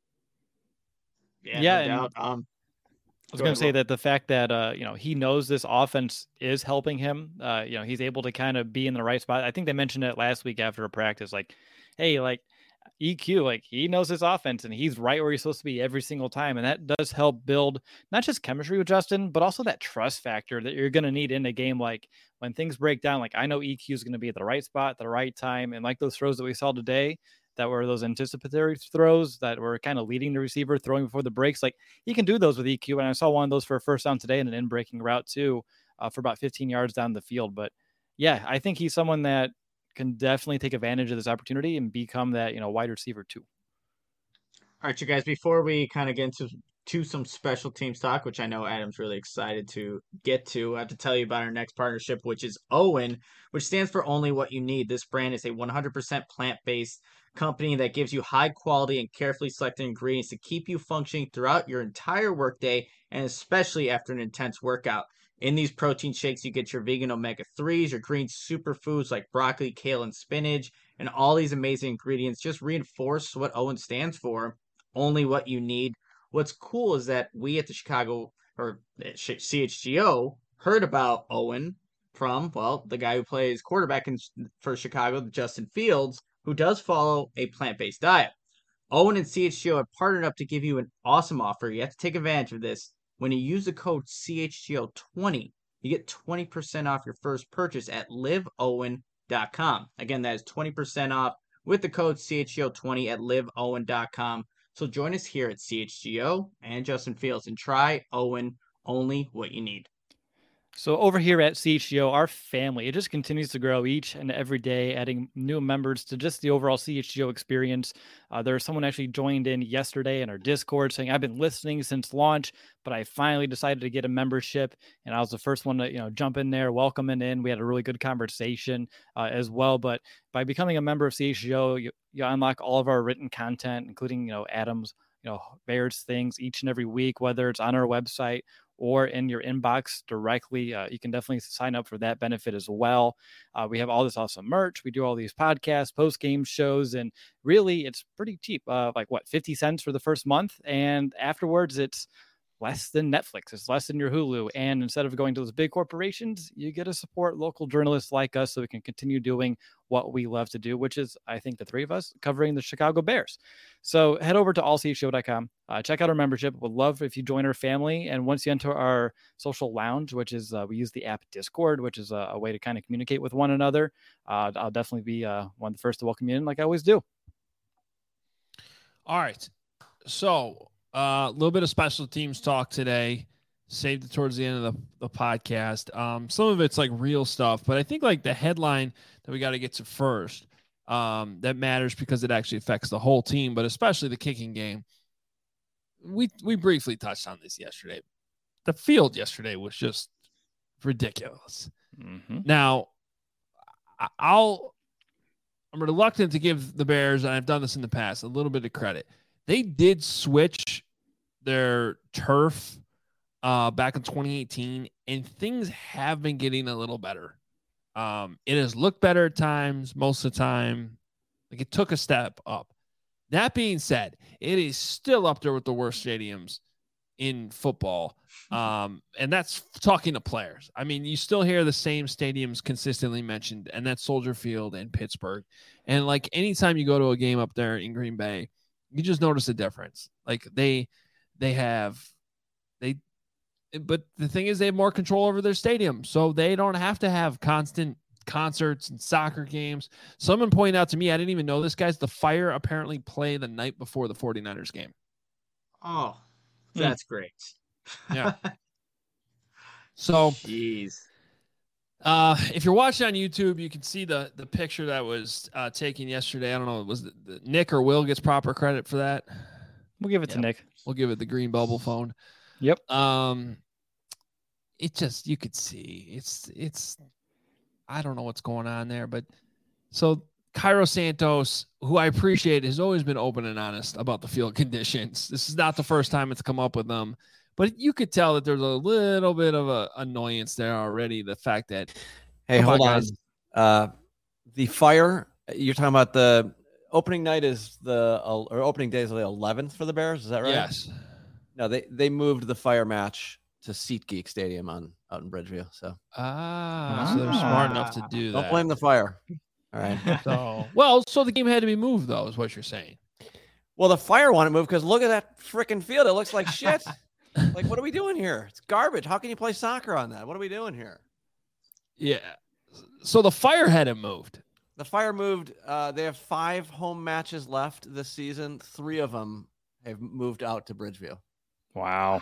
Yeah, no doubt. I was going to say that the fact that, he knows this offense is helping him, he's able to kind of be in the right spot. I think they mentioned it last week after a practice, like, hey, like EQ, like he knows his offense and he's right where he's supposed to be every single time. And that does help build not just chemistry with Justin, but also that trust factor that you're going to need in a game. Like when things break down, like I know EQ is going to be at the right spot, at the right time. And like those throws that we saw today, that were those anticipatory throws that were kind of leading the receiver, throwing before the breaks. Like he can do those with EQ. And I saw one of those for a first down today and an in-breaking route too, for about 15 yards down the field. But yeah, I think he's someone that can definitely take advantage of this opportunity and become that, wide receiver too. All right, you guys, before we kind of get into some special teams talk, which I know Adam's really excited to get to, I have to tell you about our next partnership, which is OWYN, which stands for Only What You Need. This brand is a 100% plant-based company that gives you high quality and carefully selected ingredients to keep you functioning throughout your entire workday and especially after an intense workout. In these protein shakes, you get your vegan omega-3s, your green superfoods like broccoli, kale, and spinach, and all these amazing ingredients just reinforce what OWYN stands for. Only what you need. What's cool is that we at the Chicago or CHGO heard about OWYN from, well, the guy who plays quarterback for Chicago, Justin Fields, who does follow a plant-based diet. OWYN and CHGO have partnered up to give you an awesome offer. You have to take advantage of this. When you use the code CHGO20, you get 20% off your first purchase at liveowyn.com. Again, that is 20% off with the code CHGO20 at liveowyn.com. So join us here at CHGO and Justin Fields and try OWYN, only what you need. So over here at CHGO, our family, it just continues to grow each and every day, adding new members to just the overall CHGO experience. There's someone actually joined in yesterday in our Discord saying, I've been listening since launch, but I finally decided to get a membership. And I was the first one to, jump in there, welcoming in. We had a really good conversation as well. But by becoming a member of CHGO, you unlock all of our written content, including, Adam's, Bears things each and every week, whether it's on our website or in your inbox directly. You can definitely sign up for that benefit as well. We have all this awesome merch. We do all these podcasts, post-game shows, and really it's pretty cheap. 50 cents for the first month. And afterwards it's less than Netflix. It's less than your Hulu. And instead of going to those big corporations, you get to support local journalists like us so we can continue doing what we love to do, which is, I think, the three of us covering the Chicago Bears. So head over to allchgo.com. Check out our membership. We'd love if you join our family. And once you enter our social lounge, which is we use the app Discord, which is a way to kind of communicate with one another. I'll definitely be one of the first to welcome you in like I always do. All right. So a little bit of special teams talk today. Saved it towards the end of the podcast. Some of it's like real stuff, but I think like the headline that we got to get to first that matters because it actually affects the whole team, but especially the kicking game. We briefly touched on this yesterday. The field yesterday was just ridiculous. Mm-hmm. Now, I'm reluctant to give the Bears, and I've done this in the past, a little bit of credit. They did switch their turf back in 2018, and things have been getting a little better. It has looked better at times, most of the time. Like it took a step up. That being said, it is still up there with the worst stadiums in football. And that's talking to players. I mean, you still hear the same stadiums consistently mentioned, and that's Soldier Field and Pittsburgh. And like anytime you go to a game up there in Green Bay, you just notice a difference. Like they but the thing is, they have more control over their stadium, so they don't have to have constant concerts and soccer games. Someone pointed out to me, I didn't even know this, guys, the Fire apparently play the night before the 49ers game. Oh, that's great. Yeah. So, jeez. If you're watching on YouTube, you can see the picture that was taken yesterday. I don't know, was the Nick or Will gets proper credit for that? We'll give it to Nick. We'll give it the green bubble phone. Yep. It just, you could see it's I don't know what's going on there, but so Cairo Santos, who I appreciate, has always been open and honest about the field conditions. This is not the first time it's come up with them, but you could tell that there's a little bit of a annoyance there already. The fact that, hey, hold on, the Fire, you're talking about the opening night is or opening day is the 11th for the Bears. Is that right? Yes. No, they moved the Fire match to SeatGeek Stadium out in Bridgeville. So so they're smart enough to do that. Don't blame the Fire. All right. So the game had to be moved, though, is what you're saying. Well, the Fire want to move because look at that freaking field. It looks like shit. Like, what are we doing here? It's garbage. How can you play soccer on that? What are we doing here? Yeah. So the Fire had it moved. The Fire moved. They have 5 home matches left this season. 3 of them have moved out to Bridgeville. Wow.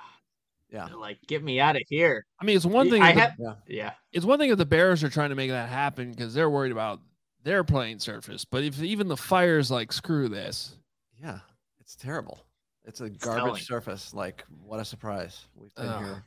Yeah. Like, get me out of here. I mean, it's one thing. It's one thing if the Bears are trying to make that happen because they're worried about their playing surface. But if even the Fire's like, screw this. Yeah, it's terrible. It's a garbage surface. Like, what a surprise. We've been here.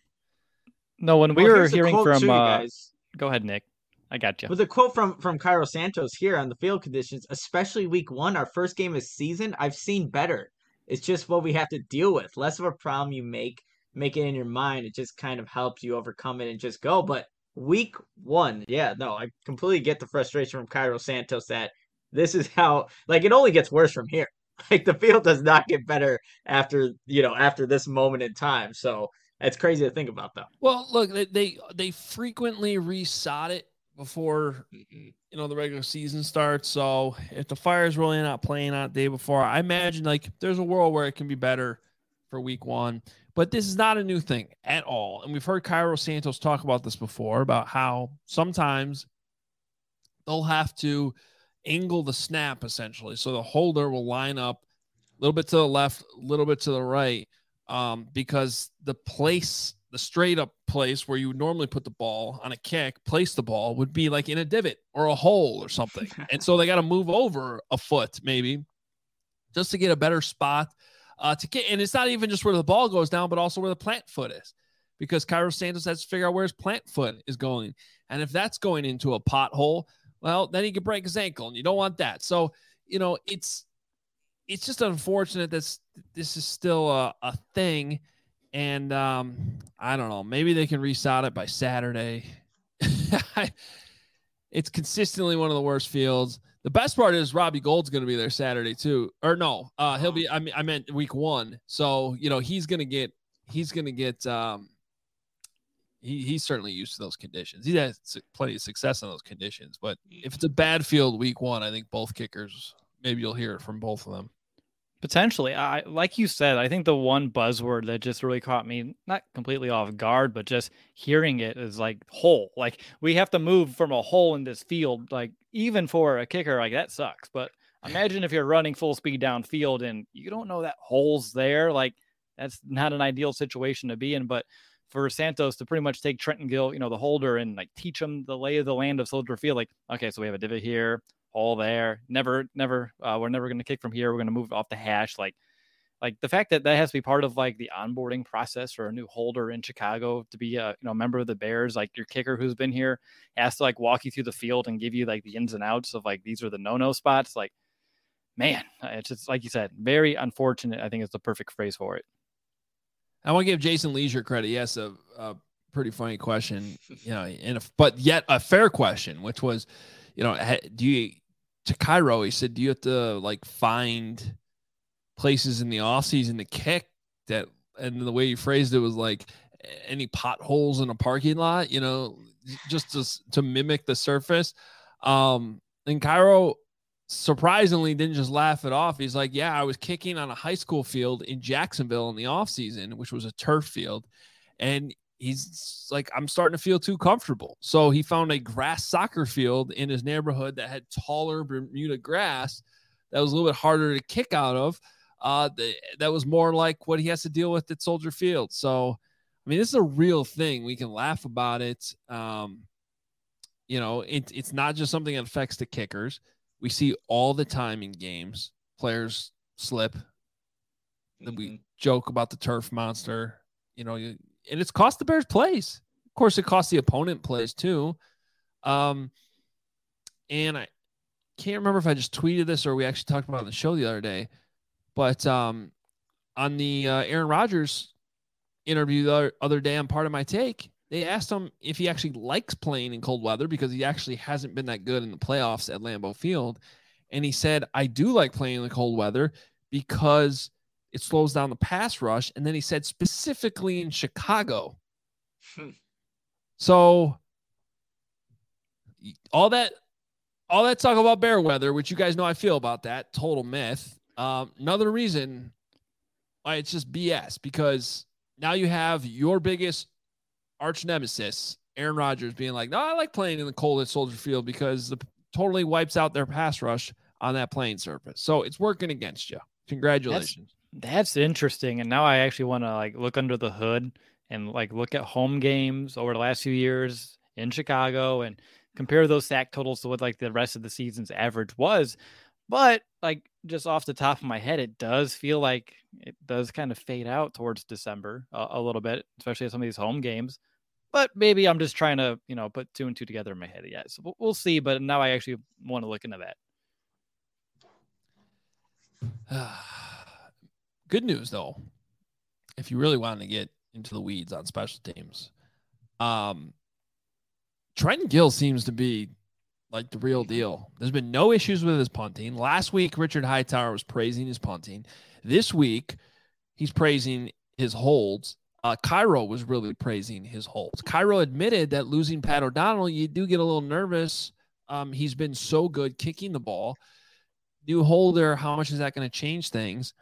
No, when we were hearing from guys. Go ahead, Nick. I got you. With a quote from Cairo Santos here on the field conditions, especially week 1, our first game of season, I've seen better. It's just what we have to deal with. Less of a problem you make it in your mind. It just kind of helps you overcome it and just go. But week 1, I completely get the frustration from Cairo Santos that this is how, like, it only gets worse from here. Like, the field does not get better after this moment in time. So it's crazy to think about, though. Well, look, they frequently resod it before the regular season starts. So if the Fire's really not playing on the day before, I imagine like there's a world where it can be better for week 1. But this is not a new thing at all. And we've heard Cairo Santos talk about this before, about how sometimes they'll have to angle the snap, essentially. So the holder will line up a little bit to the left, a little bit to the right, because the straight up place where you would normally put the ball on a kick, place the ball, would be like in a divot or a hole or something. And so they got to move over a foot maybe just to get a better spot. And it's not even just where the ball goes down, but also where the plant foot is, because Cairo Santos has to figure out where his plant foot is going. And if that's going into a pothole, well, then he could break his ankle, and you don't want that. So, it's just unfortunate that this is still a thing. And I don't know, maybe they can resod it by Saturday. It's consistently one of the worst fields. The best part is Robbie Gould's going to be there Saturday too. Or no, he'll be, I meant week 1. So, he's certainly used to those conditions. He has plenty of success in those conditions, but if it's a bad field week 1, I think both kickers, maybe you'll hear it from both of them. Potentially. Like you said, I think the one buzzword that just really caught me, not completely off guard, but just hearing it is like hole. Like, we have to move from a hole in this field. Like, even for a kicker, like, that sucks. But imagine if you're running full speed downfield and you don't know that hole's there. Like, that's not an ideal situation to be in. But for Santos to pretty much take Trenton Gill, the holder, and like teach him the lay of the land of Soldier Field. Like, okay, so we have a divot here, hole there. Never. We're never going to kick from here. We're going to move off the hash. Like the fact that has to be part of like the onboarding process for a new holder in Chicago to be a member of the Bears. Like, your kicker who's been here has to like walk you through the field and give you like the ins and outs of like, these are the no spots. Like, man, it's just like you said, very unfortunate. I think is the perfect phrase for it. I want to give Jason Leisure credit. Yes, a pretty funny question, but yet a fair question, which was, to Cairo, he said, do you have to like find places in the offseason to kick that? And the way you phrased it was like any potholes in a parking lot, just to mimic the surface. And Cairo surprisingly didn't just laugh it off. He's like, yeah, I was kicking on a high school field in Jacksonville in the offseason, which was a turf field. And he's like, I'm starting to feel too comfortable. So he found a grass soccer field in his neighborhood that had taller Bermuda grass that was a little bit harder to kick out of. That was more like what he has to deal with at Soldier Field. So, I mean, this is a real thing. We can laugh about it. It's not just something that affects the kickers. We see all the time in games, players slip. Then we joke about the turf monster, and it's cost the Bears plays. Of course, it costs the opponent plays too. And I can't remember if I just tweeted this or we actually talked about it on the show the other day, but on the Aaron Rodgers interview the other day on Part of My Take, they asked him if he actually likes playing in cold weather because he actually hasn't been that good in the playoffs at Lambeau Field. And he said, I do like playing in the cold weather because it slows down the pass rush. And then he said specifically in Chicago. So all that talk about bear weather, which you guys know I feel about that, total myth. Another reason why it's just BS, because now you have your biggest arch nemesis, Aaron Rodgers, being like, no, I like playing in the cold at Soldier Field because it totally wipes out their pass rush on that playing surface. So it's working against you. Congratulations. That's interesting. And now I actually want to look under the hood and look at home games over the last few years in Chicago and compare those sack totals to what the rest of the season's average was. But just off the top of my head, it does feel like it does kind of fade out towards December a little bit, especially at some of these home games. But maybe I'm just trying to, put two and two together in my head. Yeah, so we'll see. But now I actually want to look into that. Good news, though, if you really want to get into the weeds on special teams, Trenton Gill seems to be the real deal. There's been no issues with his punting. Last week, Richard Hightower was praising his punting. This week, he's praising his holds. Cairo was really praising his holds. Cairo admitted that losing Pat O'Donnell, you do get a little nervous. He's been so good kicking the ball. New holder, how much is that going to change things?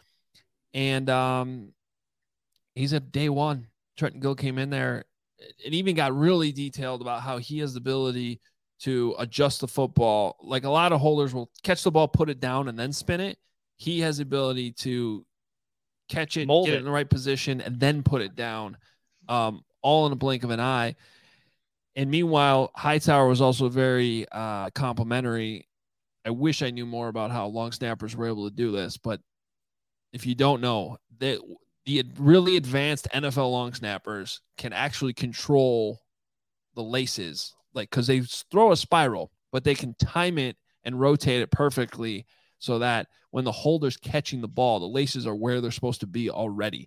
And he's at day one. Trenton Gill came in there and even got really detailed about how he has the ability to adjust the football. A lot of holders will catch the ball, put it down, and then spin it. He has the ability to catch it, get it in the right position, and then put it down, all in a blink of an eye. And meanwhile, Hightower was also very complimentary. I wish I knew more about how long snappers were able to do this, but if you don't know, the really advanced NFL long snappers can actually control the laces, because they throw a spiral, but they can time it and rotate it perfectly so that when the holder's catching the ball, the laces are where they're supposed to be already,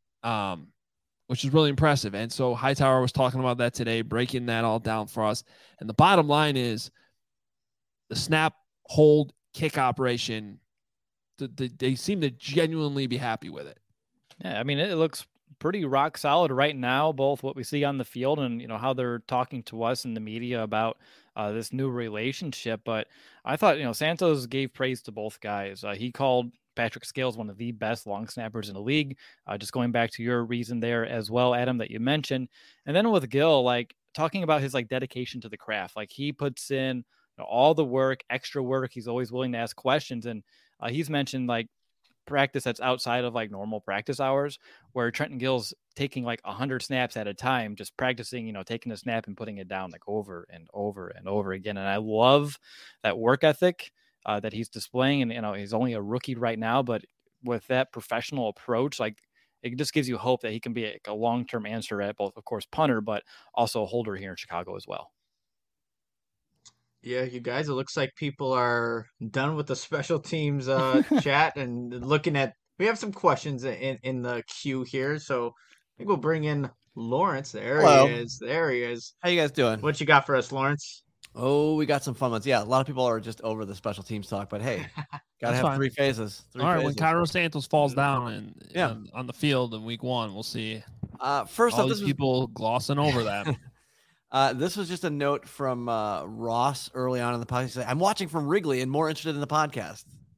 which is really impressive. And so Hightower was talking about that today, breaking that all down for us. And the bottom line is the snap, hold, kick operation, they seem to genuinely be happy with it. Yeah, I mean, it looks pretty rock solid right now, both what we see on the field and, how they're talking to us in the media about this new relationship. But I thought, Santos gave praise to both guys. He called Patrick Scales one of the best long snappers in the league. Just going back to your reason there as well, Adam, that you mentioned. And then with Gill, talking about his dedication to the craft, he puts in all the work, extra work. He's always willing to ask questions. And he's mentioned practice that's outside of normal practice hours, where Trenton Gill's taking 100 snaps at a time, just practicing, taking a snap and putting it down over and over and over again. And I love that work ethic that he's displaying. And, he's only a rookie right now, but with that professional approach, it just gives you hope that he can be a long-term answer at both, of course, punter, but also a holder here in Chicago as well. Yeah, you guys, it looks like people are done with the special teams chat and looking at, we have some questions in the queue here. So I think we'll bring in Lawrence. Hello. He is. There he is. How you guys doing? What you got for us, Lawrence? Oh, we got some fun ones. Yeah, a lot of people are just over the special teams talk, but hey, gotta have three phases. All right, when Cairo Santos falls down on the field in week 1, we'll see. First all off, these people glossing over that. This was just a note from Ross early on in the podcast. I'm watching from Wrigley and more interested in the podcast.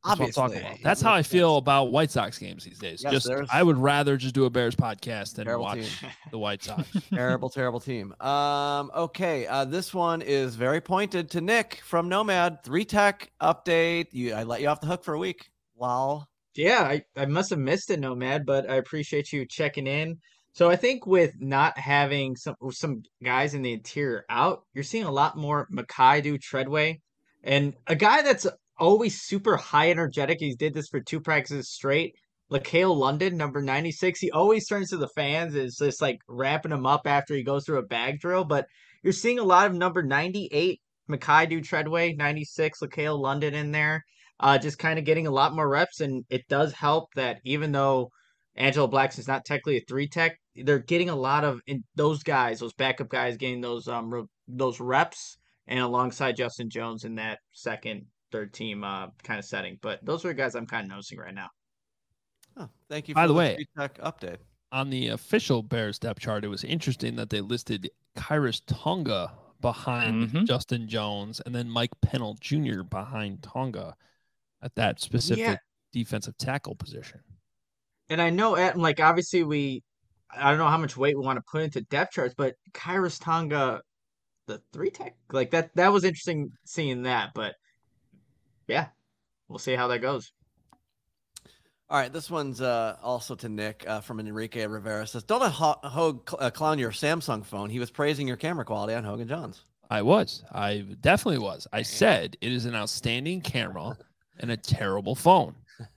That's what I'm Obviously, talking about. That's how I feel about White Sox games these days. Yes, I would rather just do a Bears podcast than Terrible watch team. the White Sox. Terrible team. Okay. This one is very pointed to Nick from Nomad. 3Tech update. I let you off the hook for a week. Wow. Yeah, I must have missed it, Nomad, but I appreciate you checking in. So I think with not having some guys in the interior out, you're seeing a lot more Makaidu Treadway, and a guy that's always super high energetic. He did this for 2 practices straight. LaCale London, number 96. He always turns to the fans, is just like wrapping him up after he goes through a bag drill. But you're seeing a lot of number 98 Makaidu Treadway, 96 LaCale London in there, just kind of getting a lot more reps. And it does help that even though Angelo Blackson's not technically a 3 tech, they're getting a lot of those guys, those backup guys, getting those reps, and alongside Justin Jones in that second, third team kind of setting. But those are the guys I'm kind of noticing right now. Oh, thank you. By for the way, 3Tech update on the official Bears depth chart, it was interesting that they listed Kyrus Tonga behind Justin Jones and then Mike Pennell Jr. behind Tonga at that specific defensive tackle position. And I know, like, obviously I don't know how much weight we want to put into depth charts, but Kyrus Tonga, the 3 tech, like that was interesting seeing that. But yeah, we'll see how that goes. All right, this one's also to Nick from Enrique Rivera. Says, don't let Hogue clown your Samsung phone. He was praising your camera quality on Hogan Johns. I definitely was. I said it is an outstanding camera and a terrible phone.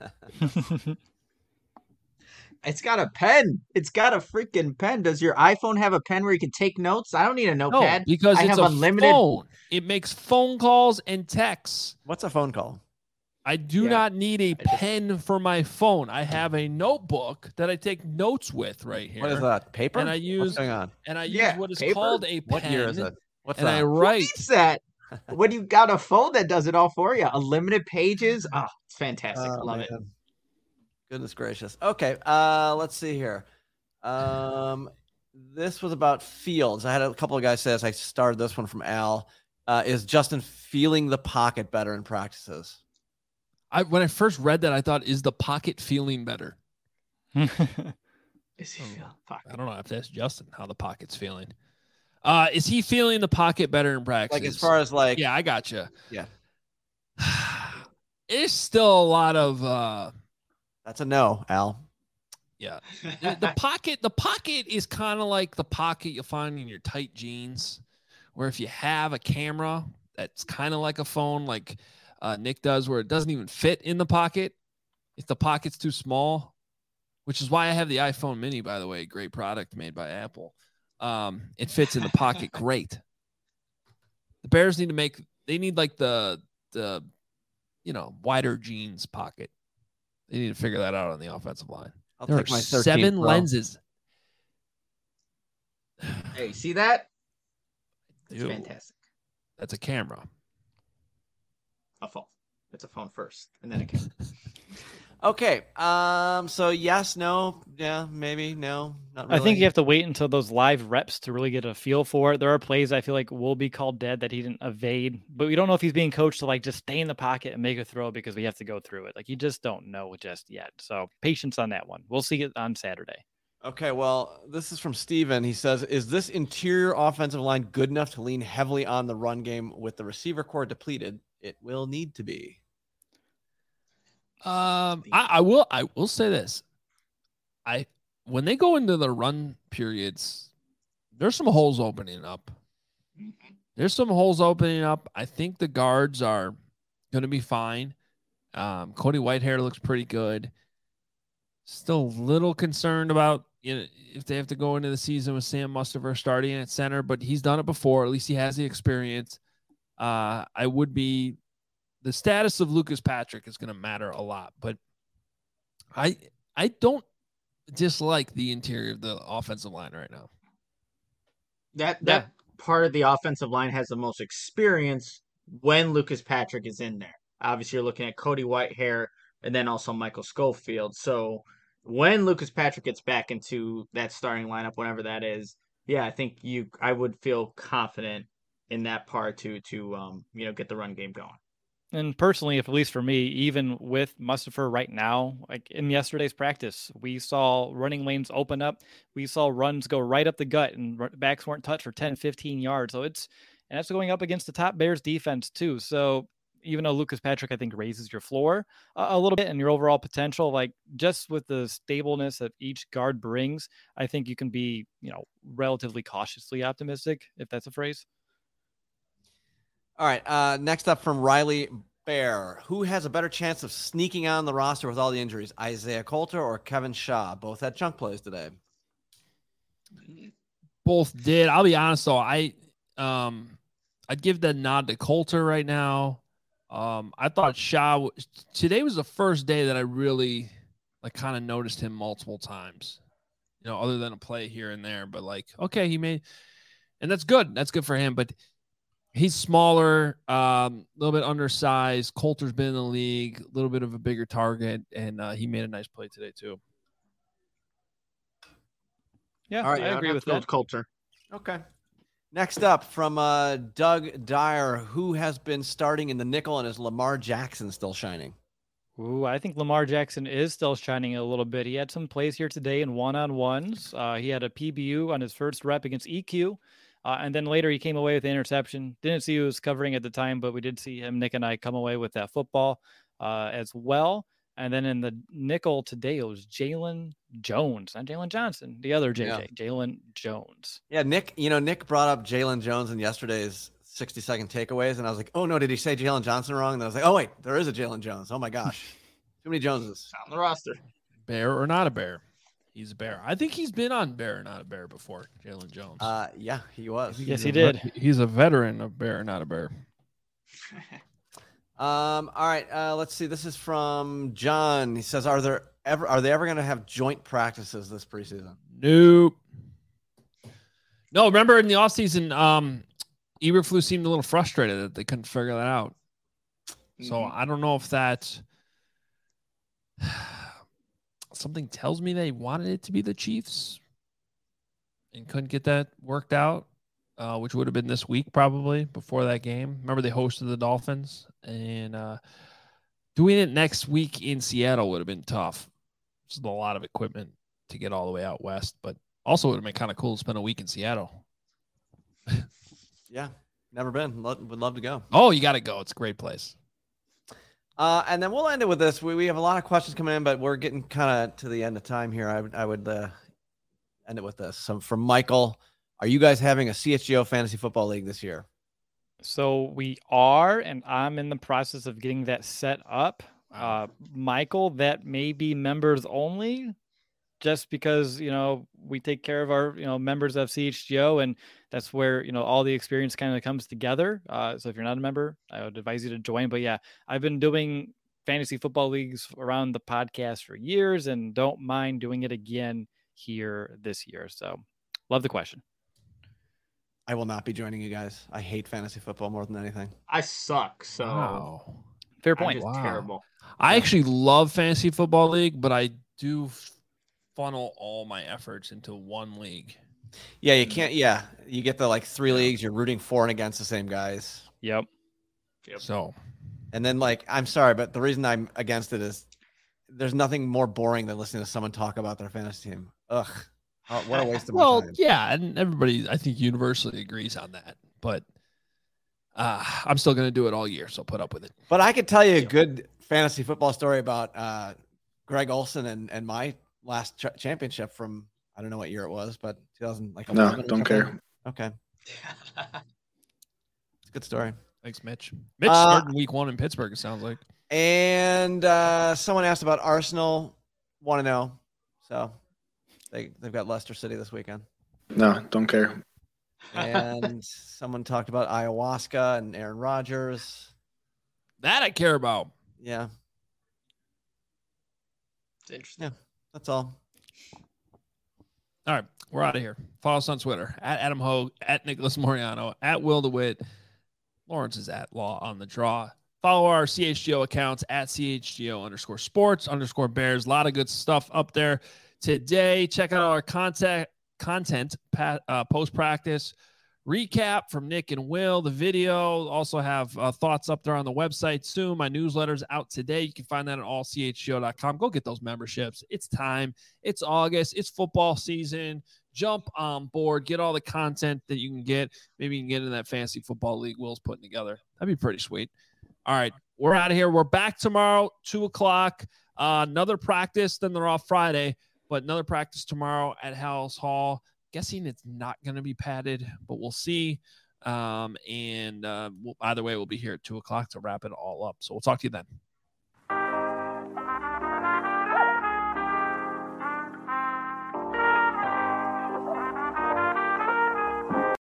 It's got a pen. It's got a freaking pen. Does your iPhone have a pen where you can take notes? I don't need a notepad. No, because I it's have a unlimited phone. It makes phone calls and texts. What's a phone call? I do not need a pen for my phone. I have a notebook that I take notes with right here. What is that? Paper? And I use What's going on? And I use what is called a pen. What year is it? What's and that? I write. Who needs that? When you got a phone that does it all for you, unlimited pages. Oh, it's fantastic. Love it. Goodness gracious. Okay, let's see here. This was about Fields. I had a couple of guys say this. I started this one from Al. Is Justin feeling the pocket better in practices? When I first read that, I thought, is the pocket feeling better? Is he feeling pocket? I don't know if that's Justin, how the pocket's feeling. Is he feeling the pocket better in practice? Like as far as like, yeah, I gotcha. Yeah, it's still a lot of. That's a no, Al. Yeah, the pocket is kind of like the pocket you'll find in your tight jeans, where if you have a camera that's kind of like a phone, like Nick does, where it doesn't even fit in the pocket if the pocket's too small, which is why I have the iPhone mini, by the way, great product made by Apple. It fits in the pocket great. The Bears need like the wider jeans pocket. They need to figure that out on the offensive line. There are 7 lenses. Hey, see that? It's Dude, fantastic. That's a camera. A phone. It's a phone first, and then a camera. Okay. So yes, no, yeah, maybe, no, not really. I think you have to wait until those live reps to really get a feel for it. There are plays I feel like will be called dead that he didn't evade, but we don't know if he's being coached to like just stay in the pocket and make a throw because we have to go through it. Like you just don't know just yet. So patience on that one. We'll see it on Saturday. Okay, well, this is from Steven. He says, is this interior offensive line good enough to lean heavily on the run game with the receiver core depleted? It will need to be. I will say this. When they go into the run periods, there's some holes opening up. I think the guards are going to be fine. Cody Whitehair looks pretty good. Still a little concerned about if they have to go into the season with Sam Mustipher starting at center, but he's done it before. At least he has the experience. The status of Lucas Patrick is going to matter a lot, but I don't dislike the interior of the offensive line right now. That part of the offensive line has the most experience when Lucas Patrick is in there. Obviously, you're looking at Cody Whitehair and then also Michael Schofield. So when Lucas Patrick gets back into that starting lineup, whenever that is, yeah, I think I would feel confident in that part to get the run game going. And personally, if at least for me, even with Mustipher right now, like in yesterday's practice, we saw running lanes open up. We saw runs go right up the gut and backs weren't touched for 10, 15 yards. So and that's going up against the top Bears defense too. So even though Lucas Patrick, I think, raises your floor a little bit and your overall potential, like just with the stableness that each guard brings, I think you can be, relatively cautiously optimistic, if that's a phrase. All right. Next up from Riley Bear. Who has a better chance of sneaking on the roster with all the injuries, Isaiah Coulter or Kevin Shaw? Both had chunk plays today. Both did. I'll be honest though. I'd give the nod to Coulter right now. I thought Shaw today was the first day that I really kind of noticed him multiple times, other than a play here and there, but okay, he made, and that's good. That's good for him, but he's smaller, a little bit undersized. Coulter's been in the league, a little bit of a bigger target, and he made a nice play today too. Yeah, all right, I agree with that. Coulter. Okay. Next up from Doug Dyer, who has been starting in the nickel, and is Lamar Jackson still shining? Ooh, I think Lamar Jackson is still shining a little bit. He had some plays here today in one-on-ones. He had a PBU on his first rep against EQ. And then later he came away with the interception. Didn't see who was covering at the time, but we did see him, Nick and I, come away with that football as well. And then in the nickel today, it was Jalen Jones, not Jalen Johnson, the other JJ, Jalen Jones. Yeah, Nick brought up Jalen Jones in yesterday's 60-second takeaways, and I was like, oh no, did he say Jalen Johnson wrong? And I was like, oh wait, there is a Jalen Jones. Oh my gosh, too many Joneses on the roster. Bear or not a Bear? He's a Bear. I think he's been on Bear or Not a Bear before, Jalen Jones. Yeah, he was. Yes, he did. He's a veteran of Bear or Not a Bear. All right. Let's see. This is from John. He says, are they ever going to have joint practices this preseason? Nope. No, remember in the offseason, Eberflus seemed a little frustrated that they couldn't figure that out. So I don't know if that something tells me they wanted it to be the Chiefs and couldn't get that worked out, which would have been this week probably before that game. Remember they hosted the Dolphins, and doing it next week in Seattle would have been tough. It's a lot of equipment to get all the way out west, but also would have been kind of cool to spend a week in Seattle. Yeah, never been. Would love to go. Oh, you got to go. It's a great place. And then we'll end it with this. We have a lot of questions coming in, but we're getting kind of to the end of time here. I would end it with this. So from Michael, are you guys having a CHGO Fantasy Football League this year? So we are, and I'm in the process of getting that set up. Michael, that may be members only, just because, we take care of our, members of CHGO, and that's where, all the experience kind of comes together. So if you're not a member, I would advise you to join. But yeah, I've been doing fantasy football leagues around the podcast for years and don't mind doing it again here this year. So love the question. I will not be joining you guys. I hate fantasy football more than anything. I suck. So wow. Fair point. I'm just terrible. I actually love fantasy football league, but I do funnel all my efforts into one league. Yeah, you can't. Yeah, you get the 3 leagues. You're rooting for and against the same guys. Yep. So, and then I'm sorry, but the reason I'm against it is there's nothing more boring than listening to someone talk about their fantasy team. Ugh. Oh, what a waste of my time. Well, yeah, and everybody, I think, universally agrees on that. But I'm still going to do it all year, so put up with it. But I could tell you a good fantasy football story about Greg Olson and my last championship from, I don't know what year it was, but 2011. No, don't care. Okay. It's a good story. Thanks, Mitch. Mitch started week 1 in Pittsburgh, it sounds like. And someone asked about Arsenal. Want to know. So they've got Leicester City this weekend. No, don't care. And someone talked about ayahuasca and Aaron Rodgers. That I care about. Yeah. It's interesting. Yeah, that's all. All right, we're out of here. Follow us on Twitter, at Adam Hogue, at Nicholas Moriano, at Will DeWitt. Lawrence is at Law on the Draw. Follow our CHGO accounts at CHGO_sports_Bears. A lot of good stuff up there today. Check out our content post-practice, recap from Nick and Will. The video also have thoughts up there on the website soon. My newsletter's out today. You can find that at allchgo.com. Go get those memberships. It's time. It's August. It's football season. Jump on board. Get all the content that you can get. Maybe you can get in that fantasy football league Will's putting together. That'd be pretty sweet. All right, we're out of here. We're back tomorrow, 2:00. Another practice. Then they're off Friday, but another practice tomorrow at House Hall. Guessing it's not going to be padded, but we'll see. Either way, we'll be here at 2:00 to wrap it all up. So we'll talk to you then.